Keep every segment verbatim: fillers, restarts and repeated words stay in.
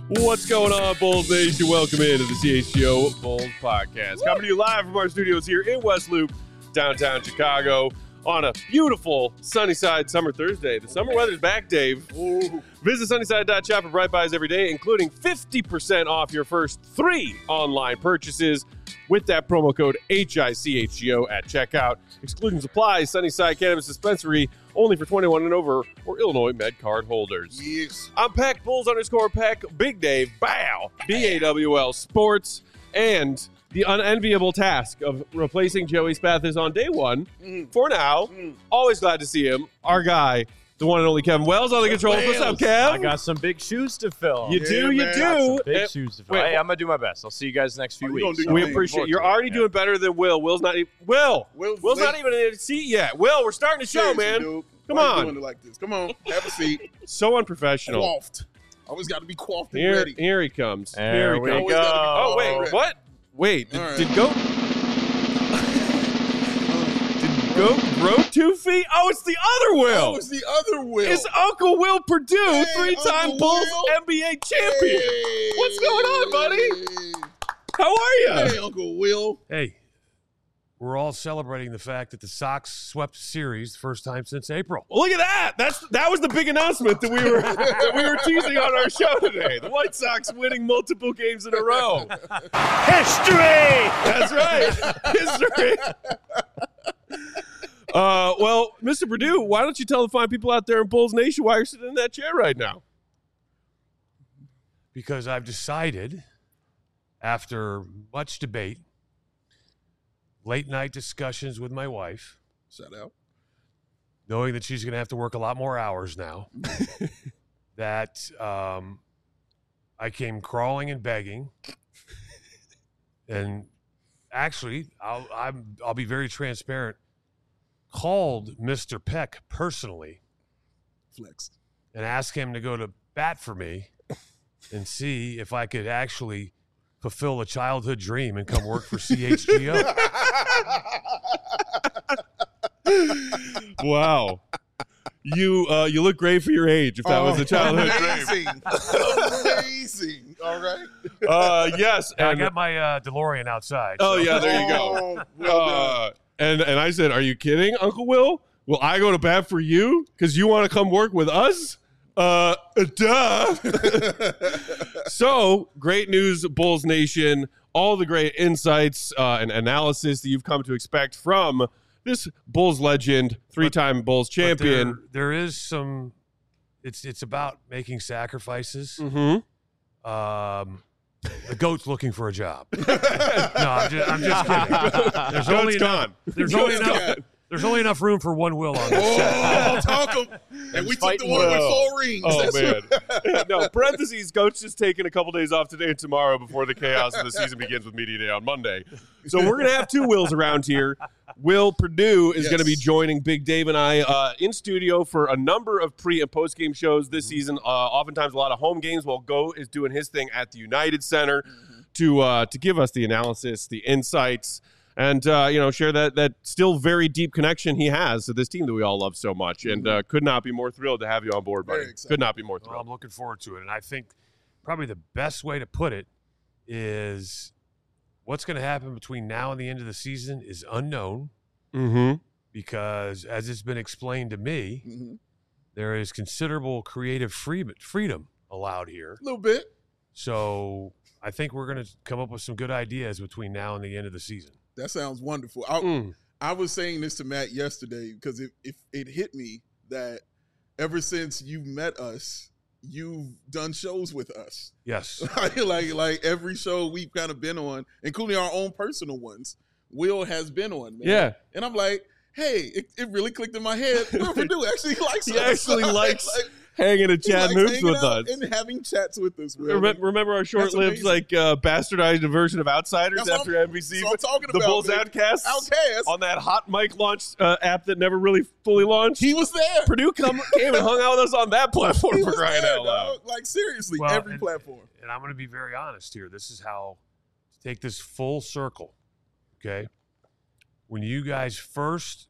What's going on, Bulls Nation? Welcome into the C H G O Bulls Podcast. Coming to you live from our studios here in West Loop, downtown Chicago, on a beautiful Sunnyside summer Thursday. The summer weather's back, Dave. Ooh. Visit sunnyside dot shop for bright buys every day, including fifty percent off your first three online purchases with that promo code H I C H G O at checkout. Excluding supplies, Sunnyside Cannabis Dispensary, only for twenty-one and over, or Illinois Med Card holders. Yes. I'm Peck, Bulls underscore Peck, Big Dave, Bow, B A W L Sports, and the unenviable task of replacing Joey Spathis on day one. Mm. For now, mm. always glad to see him. Our guy, the one and only Kevin Wells on the controls. What's up, Kev? I got some big shoes to fill. You yeah, do, you man. do. Some big and, shoes to fill. wait, hey, I'm gonna do my best. I'll see you guys next few oh, weeks. We appreciate you're already yeah. doing better than Will. Will's not even Will. Will's, Will's late. not even in a seat yet. Will, we're starting the show, Seriously, man. Dude. Come Why on. you doing it like this? Come on, have a seat. So unprofessional. Coiffed. Always got to be coiffed and Here, ready. here he comes. There here he we comes. go. Oh wait, Ready. what? Wait, did, All right. did go? did go grow two feet? Oh, it's the other Will. Oh, it's the other Will. It's Uncle Will Purdue, Hey, three-time Uncle Bulls Will. N B A champion. Hey. What's going on, buddy? How are you? Hey, Uncle Will. Hey, we're all celebrating the fact that the Sox swept the series the first time since April. Well, look at that. That's that was the big announcement that we were that we were teasing on our show today. The White Sox winning multiple games in a row. History! That's right. History. Uh, well, Mister Purdue, why don't you tell the fine people out there in Bulls Nation why you're sitting in that chair right now? Because I've decided, after much debate, late night discussions with my wife, Shout out. knowing that she's going to have to work a lot more hours now, that um, I came crawling and begging. And actually, I'll, I'm, I'll be very transparent, called Mister Peck personally Flex. and asked him to go to bat for me and see if I could actually fulfill a childhood dream and come work for C H G O. Wow. You uh, you look great for your age if that was a childhood dream. Amazing. Amazing. All right. Uh, yes. And I And, got my uh, DeLorean outside. oh, so- yeah, there you go. Oh, well done. Uh, and, and I said, are you kidding, Uncle Will? Will I go to bat for you because you want to come work with us? Uh, duh. So, great news, Bulls Nation. All the great insights uh, and analysis that you've come to expect from this Bulls legend, three-time Bulls But champion. There, there is some. It's it's about making sacrifices. Mm-hmm. Um, the goat's looking for a job. no, I'm just, I'm just kidding. There's only Goat's enough. gone. There's Goat's only enough. gone. There's only enough room for one Will on this set. Oh, talk 'em. And we took the fighting one with Will. four rings. Oh, That's man. No, parentheses, Coach is taking a couple days off today and tomorrow before the chaos of the season begins with Media Day on Monday. So we're going to have two Wills around here. Will Purdue is Yes. going to be joining Big Dave and I uh, in studio for a number of pre- and post-game shows this season. Uh, oftentimes a lot of home games while Go is doing his thing at the United Center Mm-hmm. to uh, to give us the analysis, the insights, and uh, you know, share that that still very deep connection he has to this team that we all love so much. And uh, could not be more thrilled to have you on board, buddy. Very excited. Could not be more Well, thrilled. I'm looking forward to it, and I think probably the best way to put it is what's going to happen between now and the end of the season is unknown. Mm-hmm. Because as it's been explained to me, Mhm. there is considerable creative free- freedom allowed here. A little bit. So I think we're going to come up with some good ideas between now and the end of the season. That sounds wonderful. I, Mm. I was saying this to Matt yesterday because it, it, it hit me that ever since you met us, you've done shows with us. Yes. like like every show we've kind of been on, including our own personal ones, Will has been on, man. Yeah. And I'm like, hey, it, it really clicked in my head. Will Purdue actually likes He us. actually likes Like, hanging and he chatting likes hoops hanging with out us. and having chats with us, Will. Remember, remember our short-lived, amazing. like uh, bastardized version of Outsiders That's what after I'm- N B C? that's what I'm talking the about, Bulls man. Outcasts Outcast. on that hot mic launch uh, app that never really fully launched. He was there. Purdue come, came and hung out with us on that platform He for was crying there, out loud. dog. Like seriously, Well, every and- platform. And I'm going to be very honest here. This is how to take this full circle, okay? When you guys first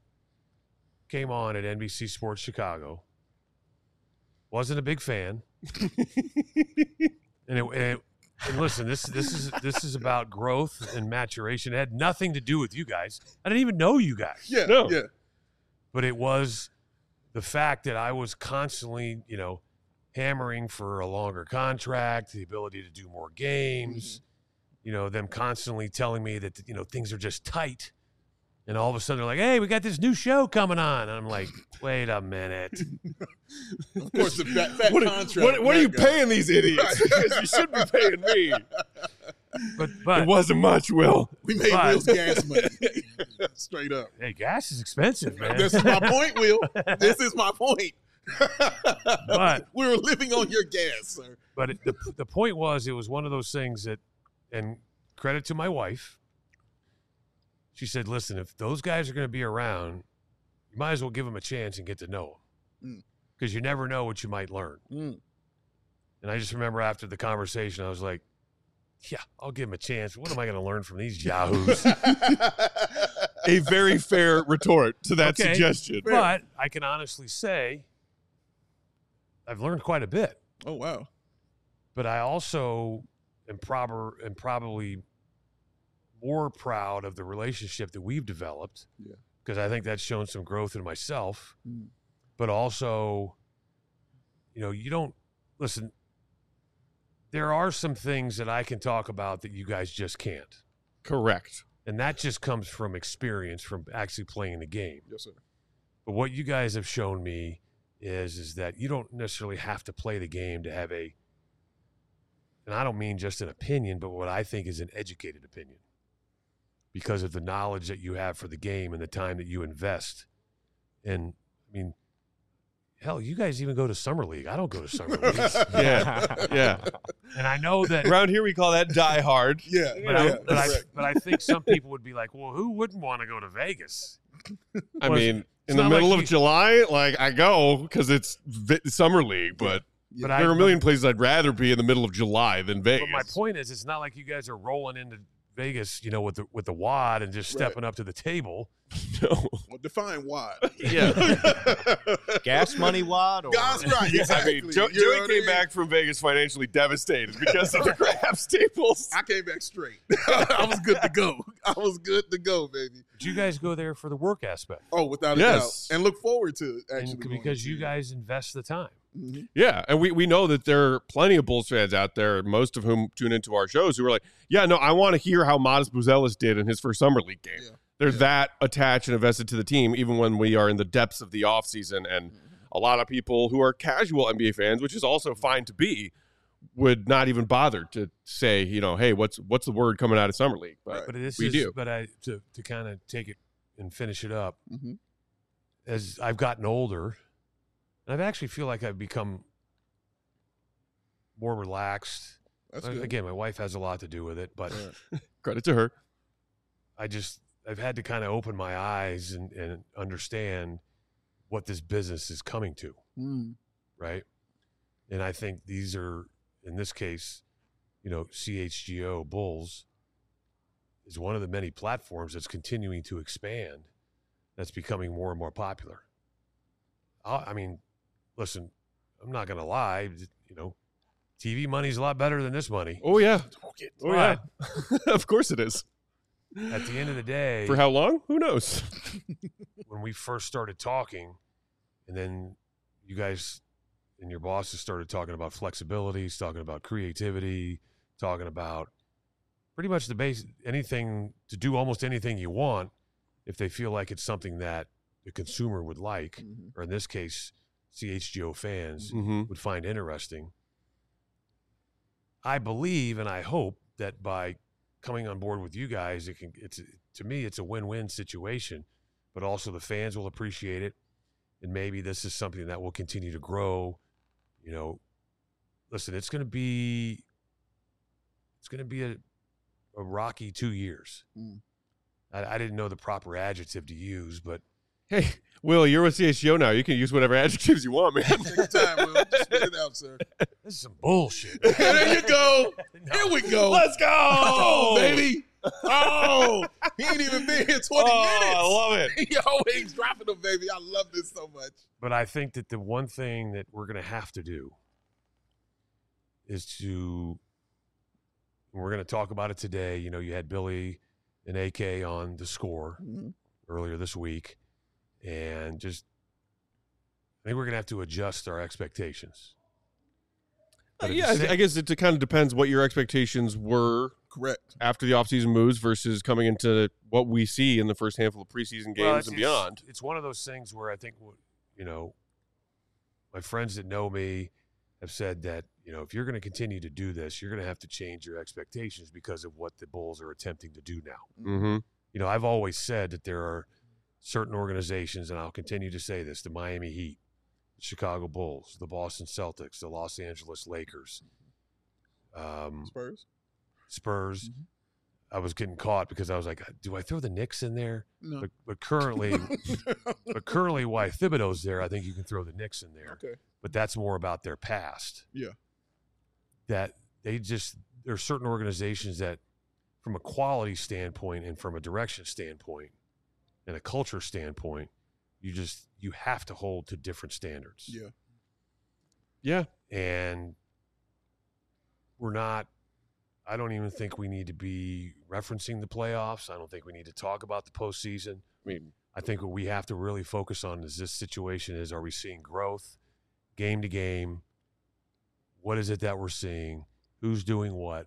came on at N B C Sports Chicago, wasn't a big fan. And, it, and, it, and listen, this this is this is about growth and maturation. It had nothing to do with you guys. I didn't even know you guys. Yeah, No. yeah. But it was the fact that I was constantly, you know, hammering for a longer contract, the ability to do more games, mm-hmm. you know, them constantly telling me that, you know, things are just tight. And all of a sudden they're like, hey, we got this new show coming on. And I'm like, wait a minute. Of course, the fat, fat What, contract. what, what are you guy. paying these idiots? Because you should be paying me. But, but It wasn't much, Will. We made But- Will's gas money. Straight up. hey, gas is expensive, man. This is my point, Will. This is my point. But- we were living on your gas, sir. But it, the the point was, it was one of those things that, and credit to my wife, she said, listen, if those guys are going to be around, you might as well give them a chance and get to know them. Because you never know what you might learn. Mm. And I just remember after the conversation, I was like, yeah, I'll give them a chance. What am I going to learn from these yahoos? A very fair retort to that Okay. suggestion. But I can honestly say I've learned quite a bit. Oh, wow. But I also am, proper, am probably more proud of the relationship that we've developed, Yeah. because I think that's shown some growth in myself. Mm. But also, you know, you don't listen. There are some things that I can talk about that you guys just can't, Correct. and that just comes from experience, from actually playing the game. Yes, sir. But what you guys have shown me is is that you don't necessarily have to play the game to have a, and I don't mean just an opinion, but what I think is an educated opinion, because of the knowledge that you have for the game and the time that you invest. And I mean, hell, you guys even go to Summer League. I don't go to Summer League. Yeah. Yeah. And I know that, Around here, we call that die hard. Yeah. but, I, yeah, but, I, correct. but I think some people would be like, well, who wouldn't want to go to Vegas? I Well, mean, it's in the not middle like of you- July, like I go because it's vi- summer league, but Yeah. But there I, are a million places I'd rather be in the middle of July than Vegas. But my point is, it's not like you guys are rolling into Vegas, you know, with the with the wad and just Right. stepping up to the table. No. Well, define why. Yeah. Gas money wad? Or? God's right. I Exactly. mean, Joe, You know Joey what I came mean? back from Vegas financially devastated because of the craps tables. I came back straight. I was good to go. I was good to go, baby. But you guys go there for the work aspect, Oh, without a Yes. doubt. And look forward to it, and actually. going because to you see it. guys invest the time. Mhm. Yeah, and we, we know that there are plenty of Bulls fans out there, most of whom tune into our shows, who are like, yeah, no, I want to hear how Modest Buzelis did in his first summer league game. Yeah. They're Yeah. that attached and invested to the team, even when we are in the depths of the offseason. And a lot of people who are casual N B A fans, which is also fine to be, would not even bother to say, you know, hey, what's what's the word coming out of summer league? But But this we is, do. but I to to kind of take it and finish it up. Mhm. As I've gotten older, and I've actually feel like I've become more relaxed. That's Uh, good. Again, my wife has a lot to do with it, but Yeah. credit to her. I just I've had to kind of open my eyes and, and understand what this business is coming to, Mm. right? And I think these are, in this case, you know, C H G O Bulls is one of the many platforms that's continuing to expand, that's becoming more and more popular. I, I mean, listen, I'm not going to lie, you know, T V money's a lot better than this money. Oh, yeah. Okay. Oh, yeah. Of course it is. At the end of the day, For how long? Who knows? when we first started talking, and then you guys and your bosses started talking about flexibility, talking about creativity, talking about pretty much the base, anything to do almost anything you want if they feel like it's something that the consumer would like, Mhm. or in this case, C H G O fans Mm-hmm. would find interesting. I believe and I hope that by coming on board with you guys, it can, it's, to me, it's a win-win situation, but also the fans will appreciate it. And maybe this is something that will continue to grow. You know, listen, it's going to be, it's going to be a, a rocky two years. Mm. I, I didn't know the proper adjective to use, but Hey, Will, you're with C H G O now. You can use whatever adjectives you want, man. Take your time, Will. Just spit it out, sir. this is some bullshit. There you go. No. Here we go. Let's go, Oh, baby. Oh, he ain't even been here twenty Oh, minutes. I love it. He always dropping them, baby. I love this so much. But I think that the one thing that we're going to have to do is to, we're going to talk about it today. You know, you had Billy and A K on The Score Mhm. earlier this week, and just, I think we're going to have to adjust our expectations. Uh, But at yeah, the I- same- I guess it kind of depends what your expectations were Correct. after the offseason moves versus coming into what we see in the first handful of preseason games Well, it's- and it's- beyond. It's one of those things where I think, you know, my friends that know me have said that, you know, if you're going to continue to do this, you're going to have to change your expectations because of what the Bulls are attempting to do now. Mm-hmm. You know, I've always said that there are certain organizations, and I'll continue to say this, the Miami Heat, the Chicago Bulls, the Boston Celtics, the Los Angeles Lakers, um, Spurs. Spurs. Mhm. I was getting caught because I was like, do I throw the Knicks in there? No. But, but currently, but currently, why Thibodeau's there, I think you can throw the Knicks in there. Okay. But that's more about their past. Yeah. That they just, there are certain organizations that, from a quality standpoint and from a direction standpoint and a culture standpoint, you just, you have to hold to different standards. Yeah. Yeah. And we're not, I don't even think we need to be referencing the playoffs. I don't think we need to talk about the postseason. I mean, I think what we have to really focus on is this situation is, are we seeing growth game to game? What is it that we're seeing? Who's doing what?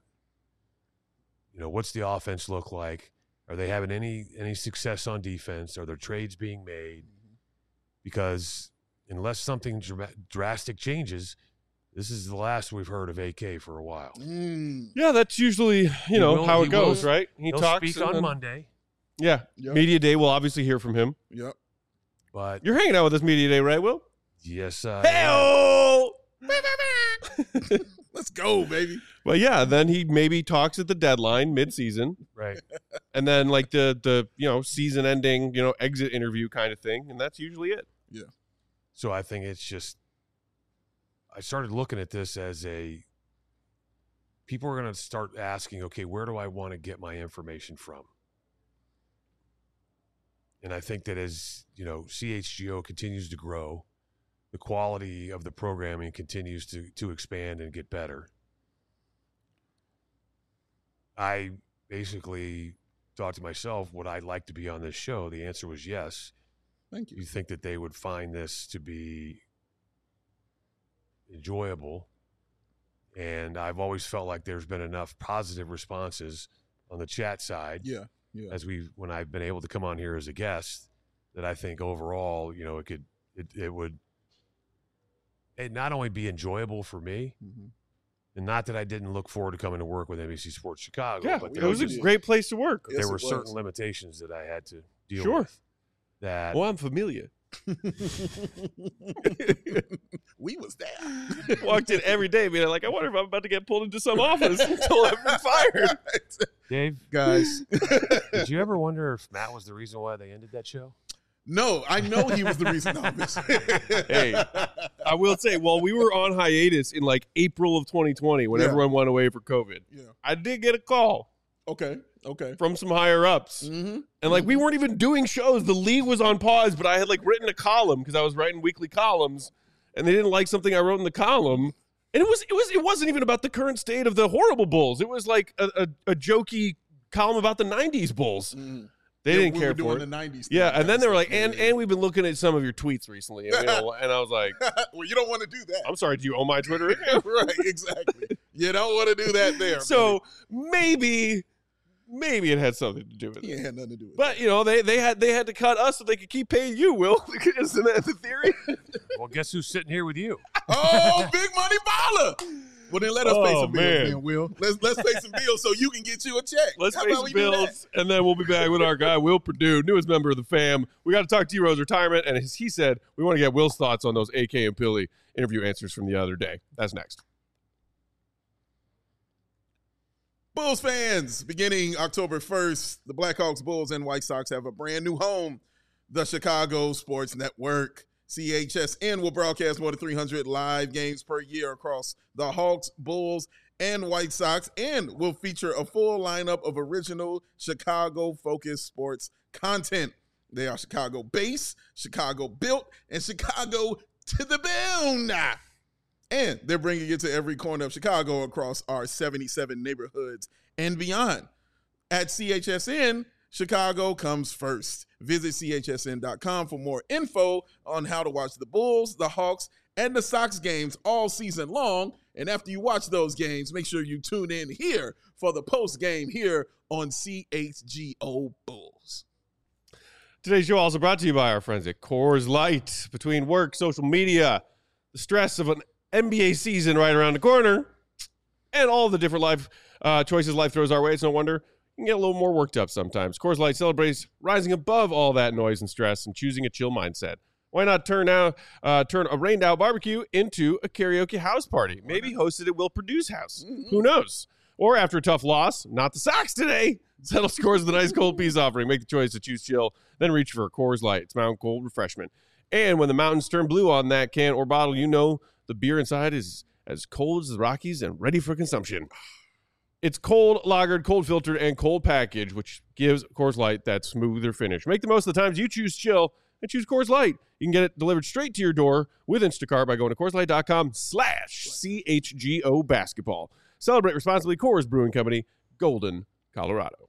You know, what's the offense look like? Are they having any any success on defense? Are there trades being made? Because unless something dra- drastic changes, this is the last we've heard of A K for a while. Mm. yeah, that's usually, you He know, will- how he it goes, will- right? He He'll talks speak and on then- Monday, Yeah. Yep. Media day, we'll obviously hear from him. Yep. but You're hanging out with us media day, right, Will? yes, uh, Hey-oh! Let's go, baby. But yeah, then he maybe talks at the deadline mid-season, right. and then like the the you know season-ending you know exit interview kind of thing, and that's usually it. So I think it's just, I started looking at this as a, people are going to start asking, okay, where do I want to get my information from? And I think that as, you know, C H G O continues to grow, the quality of the programming continues to, to expand and get better. I basically thought to myself, would I like to be on this show? The answer was yes. Thank you. You think that they would find this to be enjoyable. And I've always felt like there's been enough positive responses on the chat side Yeah. Yeah. as we, when I've been able to come on here as a guest, that I think overall, you know, it could, it, it would, it not only be enjoyable for me, Mhm. and not that I didn't look forward to coming to work with N B C Sports Chicago, Yeah, but it there was was a just, great place to work. Yes, there were it was. certain limitations that I had to deal Sure. with. That Well, I'm familiar. We was there. Walked in every day being like, I wonder if I'm about to get pulled into some office until I've been fired. Dave, Guys. did you ever wonder if Matt was the reason why they ended that show? No, I know he was the reason. No, Hey, I will say, while we were on hiatus in like April of twenty twenty, when Yeah. everyone went away for COVID, Yeah. I did get a call Okay. Okay. from some higher ups. Mm-hmm. And like we weren't even doing shows. The league was on pause, but I had like written a column because I was writing weekly columns, and they didn't like something I wrote in the column. And it was it was it wasn't even about the current state of the horrible Bulls. It was like a, a, a jokey column about the nineties Bulls. Mm-hmm. They Yeah, didn't we care were for doing it. the nineties. Yeah, and then they were like, Yeah, and yeah. and we've been looking at some of your tweets recently. And, we don't- and I was like, well, you don't want to do that. I'm sorry, do you own my Twitter account? Right, exactly. You don't want to do that there. So maybe, maybe it had something to do with baby. it. He had nothing to do with But you know, they they had they had to cut us so they could keep paying you. Will isn't that the theory? Well, guess who's sitting here with you? it. Oh, big money baller. Well, then let us pay Oh, some bills, man. then, Will. Let's let's pay some bills so you can get you a check. Let's How pay about some we do that? bills, and then we'll be back with our guy Will Perdue, newest member of the fam. We got to talk D-Rose retirement, and as he said, we want to get Will's thoughts on those A K and Billy interview answers from the other day. That's next. Bulls fans, beginning October first, the Blackhawks, Bulls, and White Sox have a brand new home, the Chicago Sports Network. C H S N will broadcast more than three hundred live games per year across the Hawks, Bulls, and White Sox, and will feature a full lineup of original Chicago-focused sports content. They are Chicago-based, Chicago-built, and Chicago to the bone. And they're bringing it to every corner of Chicago across our seventy-seven neighborhoods and beyond. At C H S N, Chicago comes first. Visit C H S N dot com for more info on how to watch the Bulls, the Hawks, and the Sox games all season long. And after you watch those games, make sure you tune in here for the post game here on C H G O Bulls. Today's show also brought to you by our friends at Coors Light. Between work, social media, the stress of an N B A season right around the corner, and all the different life uh, choices life throws our way, it's no wonder you can get a little more worked up sometimes. Coors Light celebrates rising above all that noise and stress and choosing a chill mindset. Why not turn out uh, turn a rained-out barbecue into a karaoke house party? Maybe hosted at Will Purdue's house. Mm-hmm. Who knows? Or after a tough loss, not the Sox today, settle scores with a nice cold peace offering. Make the choice to choose chill, then reach for a Coors Light. It's mountain cold refreshment. And when the mountains turn blue on that can or bottle, you know the beer inside is as cold as the Rockies and ready for consumption. It's cold lagered, cold filtered, and cold packaged, which gives Coors Light that smoother finish. Make the most of the times you choose chill and choose Coors Light. You can get it delivered straight to your door with Instacart by going to Coors Light dot com slash C H G O basketball. Celebrate responsibly. Coors Brewing Company, Golden, Colorado.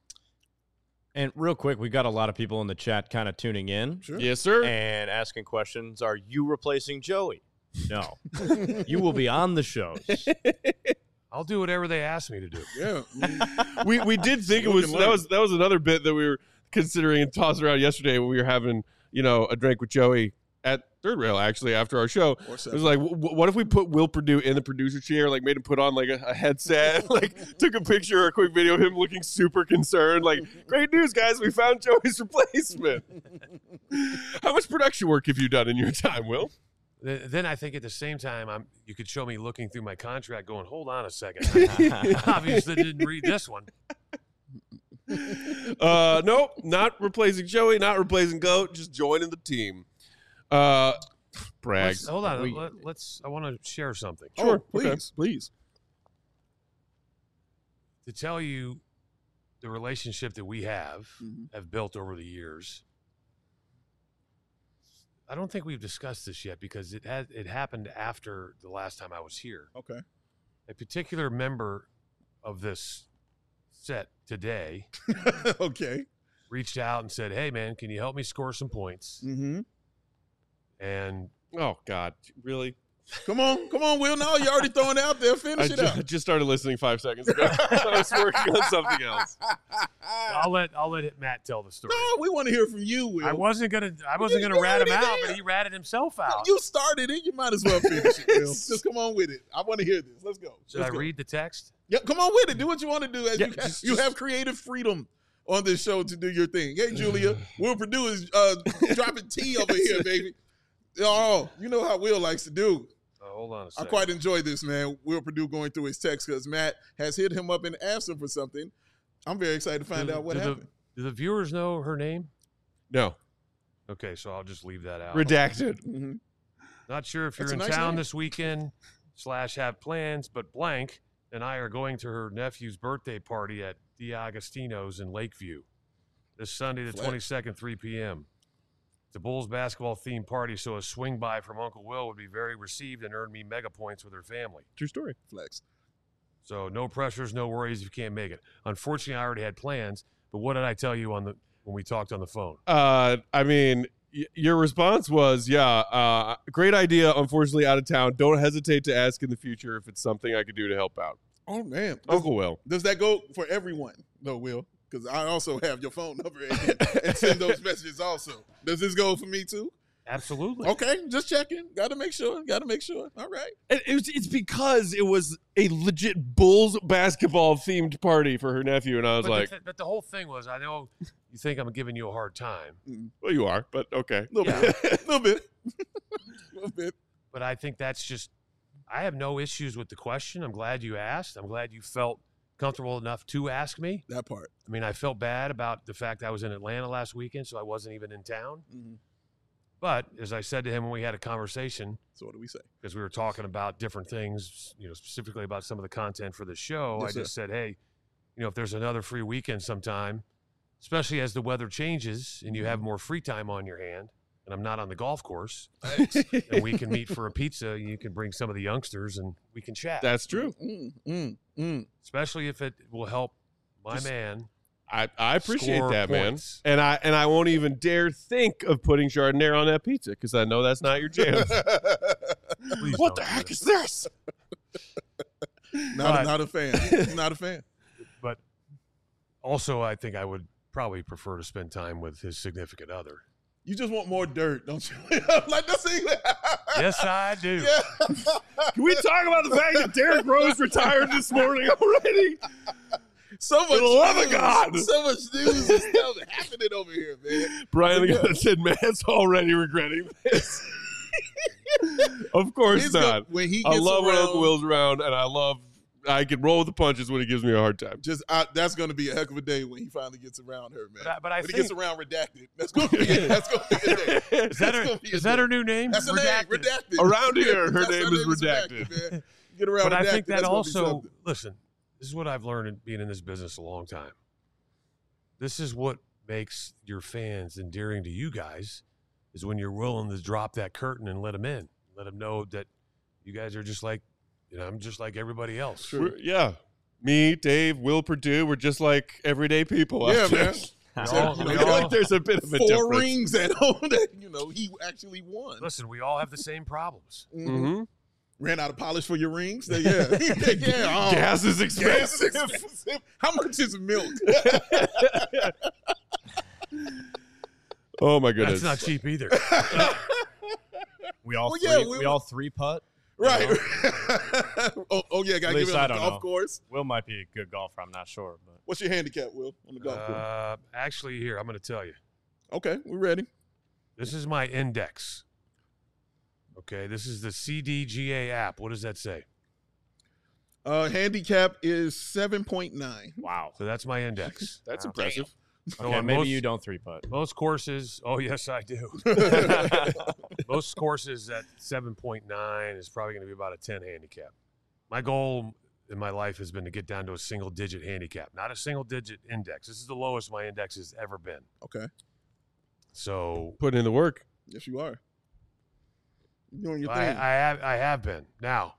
And real quick, we got a lot of people in the chat kind of tuning in. Sure. Yes, sir. And asking questions. Are you replacing Joey? No. You will be on the shows. I'll do whatever they ask me to do. Yeah. we we did think it was that was that was another bit that we were considering and tossing around yesterday when we were having, you know, a drink with Joey at Third Rail, actually, after our show. It was like, w- what if we put Will Purdue in the producer chair, like made him put on like a, a headset, like took a picture or a quick video of him looking super concerned, like, great news, guys, we found Joey's replacement. How much production work have you done in your time, Will? Then I think at the same time, I'm. You could show me looking through my contract going, hold on a second. Obviously didn't read this one. Uh, nope, not replacing Joey, not replacing Goat, just joining the team. Uh, brag. Let's, hold on. We, Let, let's. I want to share something. Sure, oh, please, okay. please. To tell you the relationship that we have, mm-hmm. have built over the years. I don't think we've discussed this yet because it had it happened after the last time I was here. Okay. A particular member of this set today okay. reached out and said, hey, man, can you help me score some points? Mm-hmm. And oh, God, really? Come on, come on, Will. No, you already throwing it out there. Finish I it ju- out. I just started listening five seconds ago. I was working on something else. I'll let I'll let Matt tell the story. No, we want to hear from you, Will. I wasn't gonna I wasn't You gonna rat him already out, there. but he ratted himself out. You started it. You might as well finish it, Will. Just come on with it. I want to hear this. Let's go. Should Let's I go. read the text? Yeah, come on with it. Do what you want to do. As Yeah, you, just- you just- have creative freedom on this show to do your thing. Hey, Julia, Will Purdue is uh, dropping tea over here, baby. Oh, you know how Will likes to do. Oh, hold on a I second. quite enjoy this, man. Will Purdue going through his text because Matt has hit him up and asked him for something. I'm very excited to find do, out what do happened. The, do the viewers know her name? No. Okay, so I'll just leave that out. Redacted. Mm-hmm. Not sure if you're That's in a nice town name. this weekend slash have plans, but blank and I are going to her nephew's birthday party at D'Agostino's in Lakeview this Sunday the Flex. twenty-second, three p.m. It's a Bulls basketball themed party, so a swing by from Uncle Will would be very received and earn me mega points with her family. True story. Flex. So no pressures, no worries if you can't make it. Unfortunately, I already had plans, but what did I tell you on the when we talked on the phone? Uh, I mean, y- your response was, yeah, uh, great idea. Unfortunately, out of town. Don't hesitate to ask in the future if it's something I could do to help out. Oh, man. Does, Uncle Will. does that go for everyone, though, Will? Because I also have your phone number and, and send those messages also. Does this go for me, too? Absolutely. Okay, just checking. Got to make sure. Got to make sure. All right. It, it was, it's because it was a legit Bulls basketball themed party for her nephew, and I was But, like, the, th- but the whole thing was, I know you think I'm giving you a hard time, well, you are, but okay. A little Yeah. bit. A little bit. A little bit. but I think that's just, I have no issues with the question. I'm glad you asked. I'm glad you felt comfortable enough to ask me. That part. I mean, I felt bad about the fact I was in Atlanta last weekend, so I wasn't even in town. Mm-hmm. But as I said to him when we had a conversation, So what do we say? because we were talking about different things, you know, specifically about some of the content for the show, Yes, I sir. just said, hey, you know, if there's another free weekend sometime, especially as the weather changes and you have more free time on your hand, and I'm not on the golf course, and we can meet for a pizza. You can bring some of the youngsters, and we can chat. That's true. Mm, mm, mm. Especially if it will help my Just- man. I, I appreciate Score that, points. man. And I and I won't even dare think of putting Chardonnay on that pizza because I know that's not your jam. Please What don't the do heck that. is this? Not, But- a, not a fan. He's not a fan. But also, I think I would probably prefer to spend time with his significant other. You just want more dirt, don't you? Like that's it. Yes, I do. Yeah. Can we talk about the fact that Derrick Rose retired this morning already? So much For the love of news. God. So much news is still happening over here, man. Brian Legato said, Matt's already regretting this. Of course It's not. gonna- when he gets I love when around, Uncle Will's around, and I love I can roll with the punches when he gives me a hard time. just I, that's going to be a heck of a day when he finally gets around her, man. But I, but I when he think gets around redacted, that's going to be that's going to be a day. is that, That's her, gonna be a is that day. her new name? That's her name, redacted. Around here, her That's name is redacted. man. Get around But I redacted, think that that's gonna be also, something. listen, this is what I've learned in being in this business a long time. This is what makes your fans endearing to you guys is when you're willing to drop that curtain and let them in. Let them know that you guys are just like, you know, I'm just like everybody else. We're- yeah. Me, Dave, Will Purdue, we're just like everyday people. out Yeah, there. man. We So, all- you know, we I feel all- like there's a bit of a Four difference. rings at home that you know he actually won. Listen, we all have the same problems. Mhm. Mm-hmm. Ran out of polish for your rings. They- Yeah, yeah. oh. Gas is Gas is expensive. expensive. How much is milk? Oh my goodness. That's not cheap either. We all Well, three, yeah, we, we- all three putt. Right. oh, oh yeah, gotta At give least it I on the don't golf know. course. Will might be a good golfer. I'm not sure, but What's your handicap, Will, on the golf course? Uh, actually, here, I'm going to tell you. Okay, we're ready. This is my index. Okay, this is the C D G A app. What does that say? Uh, handicap is seven point nine. wow. So that's my index. That's Wow. impressive. So Okay, on maybe most, you don't three putt. Most courses, oh yes, I do. Most courses at seven point nine is probably going to be about a ten handicap. My goal in my life has been to get down to a single digit handicap, not a single digit index. This is the lowest my index has ever been. Okay. So Putting in the work. Yes, you are. You're doing your I, thing. I have I have been. Now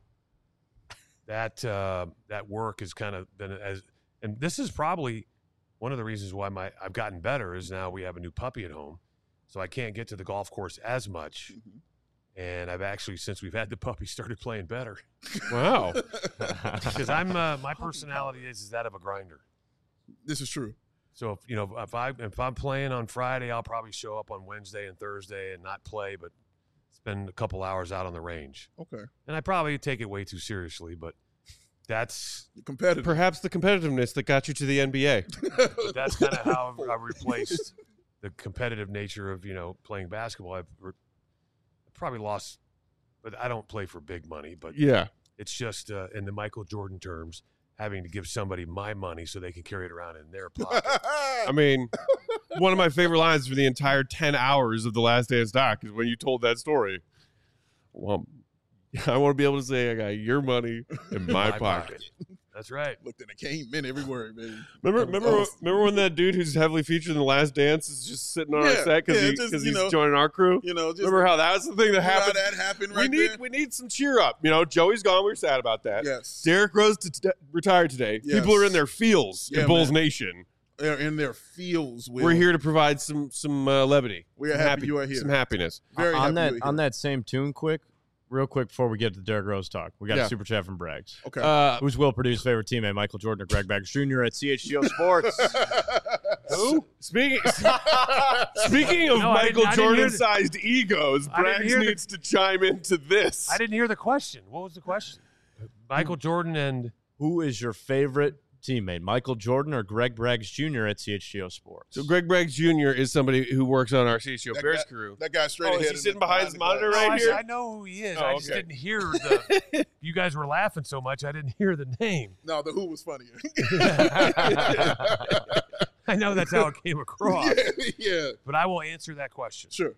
that uh, that work has kind of been as, and this is probably one of the reasons why my I've gotten better is now we have a new puppy at home, so I can't get to the golf course as much. Mhm. And I've actually, since we've had the puppy, started playing better Wow. because I'm uh, my personality is, is that of a grinder. This is true. So if you know if I if I'm playing on Friday, I'll probably show up on Wednesday and Thursday and not play, but spend a couple hours out on the range. Okay. And I probably take it way too seriously, but that's You're competitive. Perhaps the competitiveness that got you to the N B A. but that's kind of how I've, I've replaced the competitive nature of you know playing basketball. I've, re- I've probably lost, but I don't play for big money. But Yeah. it's just uh, in the Michael Jordan terms, having to give somebody my money so they can carry it around in their pocket. I mean, one of my favorite lines for the entire ten hours of The Last Dance doc is when you told that story. Well, I want to be able to say I got your money in my, pocket. That's right. Looked and it came in every word, baby. Remember, That was remember, awesome. remember when that dude who's heavily featured in The Last Dance is just sitting on our Yeah, set because yeah, he, just, 'cause you he's know, joining our crew? You know, just Remember how that was the thing that remember how happened? that happened right we need there? we need some cheer up. You know, Joey's gone. We were sad about that. Yes. Derrick Rose to t- retired today. Yes. People are in their feels Yeah, in Bulls man. Nation. They're in their fields. Will. We're here to provide some some uh, levity. We are some happy happy- you are here. Some happiness. Very on happy that you are on here. that same tune, quick, real quick before we get to Derrick Rose talk, we got Yeah. a super chat from Braggs. Okay. Uh, Who's Will Purdue's favorite teammate, Michael Jordan or Greg Baggers Junior at C H G O Sports? who? Speaking speaking of No, I didn't- Michael I didn't hear Jordan-sized egos, I didn't Braggs hear the- needs to chime into this. I didn't hear the question. What was the question? Michael Jordan and Who is your favorite teammate, Michael Jordan or Greg Braggs Junior at C H G O Sports? So Greg Braggs Junior is somebody who works on our C H G O That Bears guy- crew. that guy straight Oh, is ahead. he in sitting the- behind his the monitor glass. right No, I, here? I know who he is. Oh, I just okay. didn't hear the. You guys were laughing so much, I didn't hear the name. No, the who was funnier. I know that's how it came across, yeah, yeah, but I will answer that question. sure.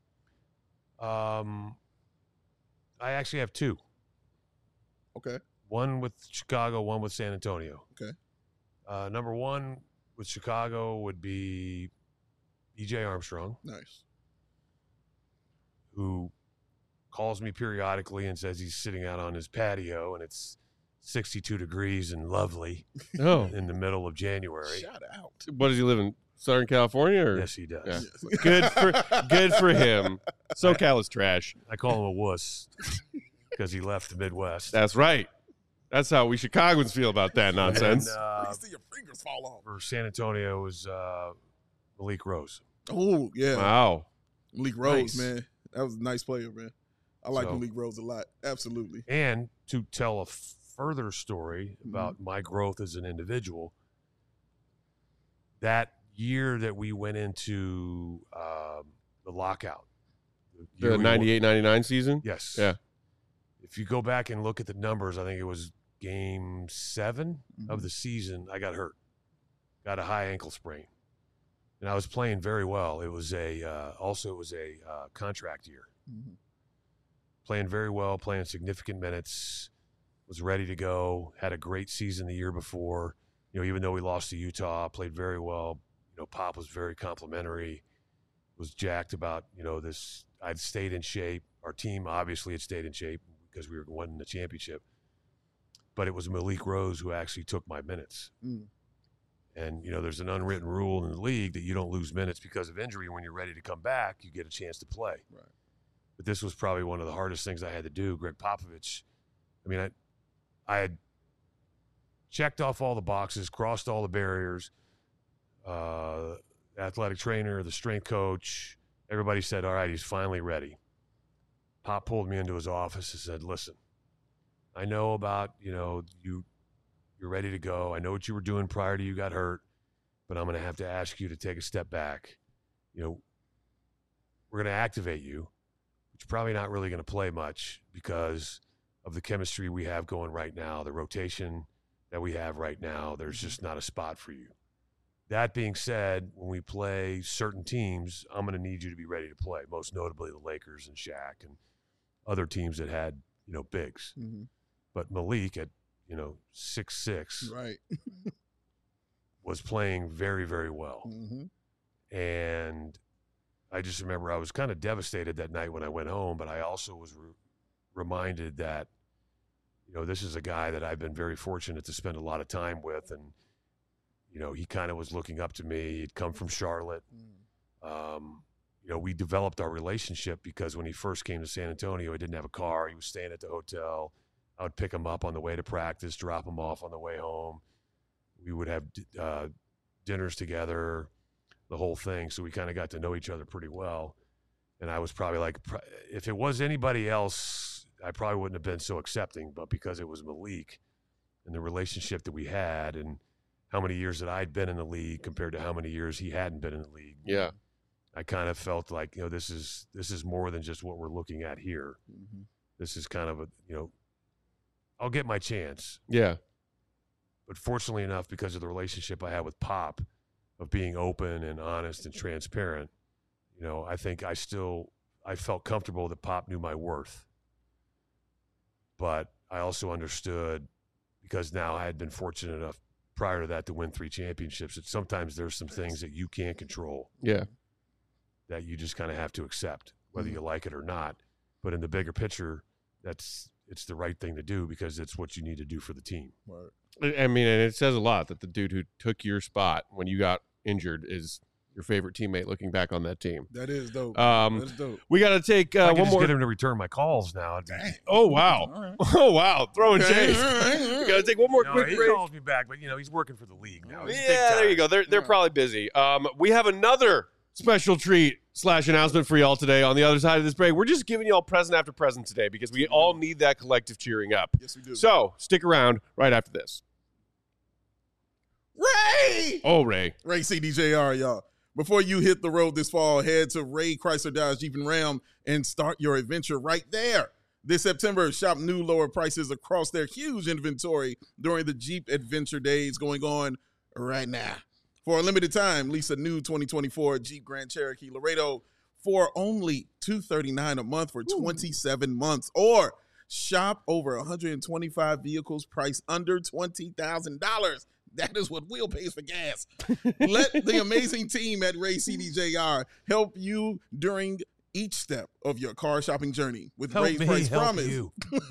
Um, I actually have two. Okay. One with Chicago, one with San Antonio. Okay. Uh, number one with Chicago would be E J Armstrong. Nice. who calls me periodically and says he's sitting out on his patio and it's sixty-two degrees and lovely Oh, in the middle of January. Shout out. what does he live in? Southern California? Or? Yes, he does. Yeah. Yes. Good for good for him. SoCal is trash. I call him a wuss because he left the Midwest. That's right. That's how we Chicagoans feel about that nonsense. And, uh, Please see your fingers fall off. for San Antonio was uh, Malik Rose. Oh, yeah. Wow. Malik Rose, Nice. man. That was a nice player, man. I like So- Malik Rose a lot. Absolutely. And to tell a further story about my growth as an individual, that year that we went into um, the lockout, year The we won- ninety-eight ninety-nine season? Yes. Yeah. If you go back and look at the numbers, I think it was game seven Mm-hmm. of the season. I got hurt, got a high ankle sprain, and I was playing very well. It was a uh, also it was a uh, contract year. Mhm. Playing very well, playing significant minutes, was ready to go, had a great season the year before. You know, even though we lost to Utah, played very well. You know, Pop was very complimentary, was jacked about, you know, this. I'd stayed in shape. Our team obviously had stayed in shape because we were winning the championship. But it was Malik Rose who actually took my minutes. Mm. And, you know, there's an unwritten rule in the league that you don't lose minutes because of injury. When you're ready to come back, you get a chance to play. Right. But this was probably one of the hardest things I had to do. Greg Popovich, I mean, I, I had checked off all the boxes, crossed all the barriers. Uh, athletic trainer, the strength coach, everybody said, all right, he's finally ready. Pop pulled me into his office and said, listen, I know about, you know, you, you're ready to go. I know what you were doing prior to you got hurt, but I'm going to have to ask you to take a step back. You know, we're going to activate you, but you're probably not really going to play much because of the chemistry we have going right now, the rotation that we have right now. There's just not a spot for you. That being said, when we play certain teams, I'm going to need you to be ready to play, most notably the Lakers and Shaq and other teams that had, you know, bigs. Mhm. But Malik at, you know, six six Right. was playing very, very well. hmm And I just remember I was kind of devastated that night when I went home, but I also was re- reminded that, you know, this is a guy that I've been very fortunate to spend a lot of time with. And, you know, he kind of was looking up to me. He'd come from Charlotte. Um, you know, we developed our relationship because when he first came to San Antonio, he didn't have a car. He was staying at the hotel. I would pick him up on the way to practice, drop him off on the way home. We would have uh, dinners together, the whole thing. So we kind of got to know each other pretty well. And I was probably like, if it was anybody else, I probably wouldn't have been so accepting. But because it was Malik and the relationship that we had and how many years that I'd been in the league compared to how many years he hadn't been in the league, Yeah. I kind of felt like, you know, this is this is more than just what we're looking at here. hmm This is kind of a, you know, I'll get my chance. Yeah. But fortunately enough, because of the relationship I had with Pop of being open and honest and transparent, you know, I think I still, I felt comfortable that Pop knew my worth. But I also understood, because now I had been fortunate enough prior to that to win three championships, that sometimes there's some things that you can't control Yeah. that you just kind of have to accept, whether Mhm. you like it or not. But in the bigger picture, that's, it's the right thing to do because it's what you need to do for the team. Right. I I mean, and it says a lot that the dude who took your spot when you got injured is your favorite teammate looking back on that team. That is dope. Um, That's dope. we got to take I uh, could one just more. get him to return my calls now. I'd be- Dang. Oh, wow. All right. Oh, wow. Throwing Okay, shade. all right, all We right. got to take one more No, quick he break. calls me back, but you know he's working for the league now. He's big Yeah, there time. you go. They're they're Yeah. probably busy. Um, we have another special treat slash announcement for y'all today. On the other side of this break, we're just giving y'all present after present today because we all need that collective cheering up. Yes, we do. So stick around right after this. Ray! Oh, Ray. Ray C D J R, y'all. Before you hit the road this fall, head to Ray Chrysler Dodge Jeep and Ram and start your adventure right there. This September, shop new lower prices across their huge inventory during the Jeep Adventure Days going on right now. For a limited time, lease a new twenty twenty-four Jeep Grand Cherokee Laredo for only two hundred thirty-nine dollars a month for twenty-seven months, or shop over one hundred twenty-five vehicles priced under twenty thousand dollars. That is what Will pays for gas. Let the amazing team at Ray C D J R help you during each step of your car shopping journey with Help Ray's me Price help Promise. you.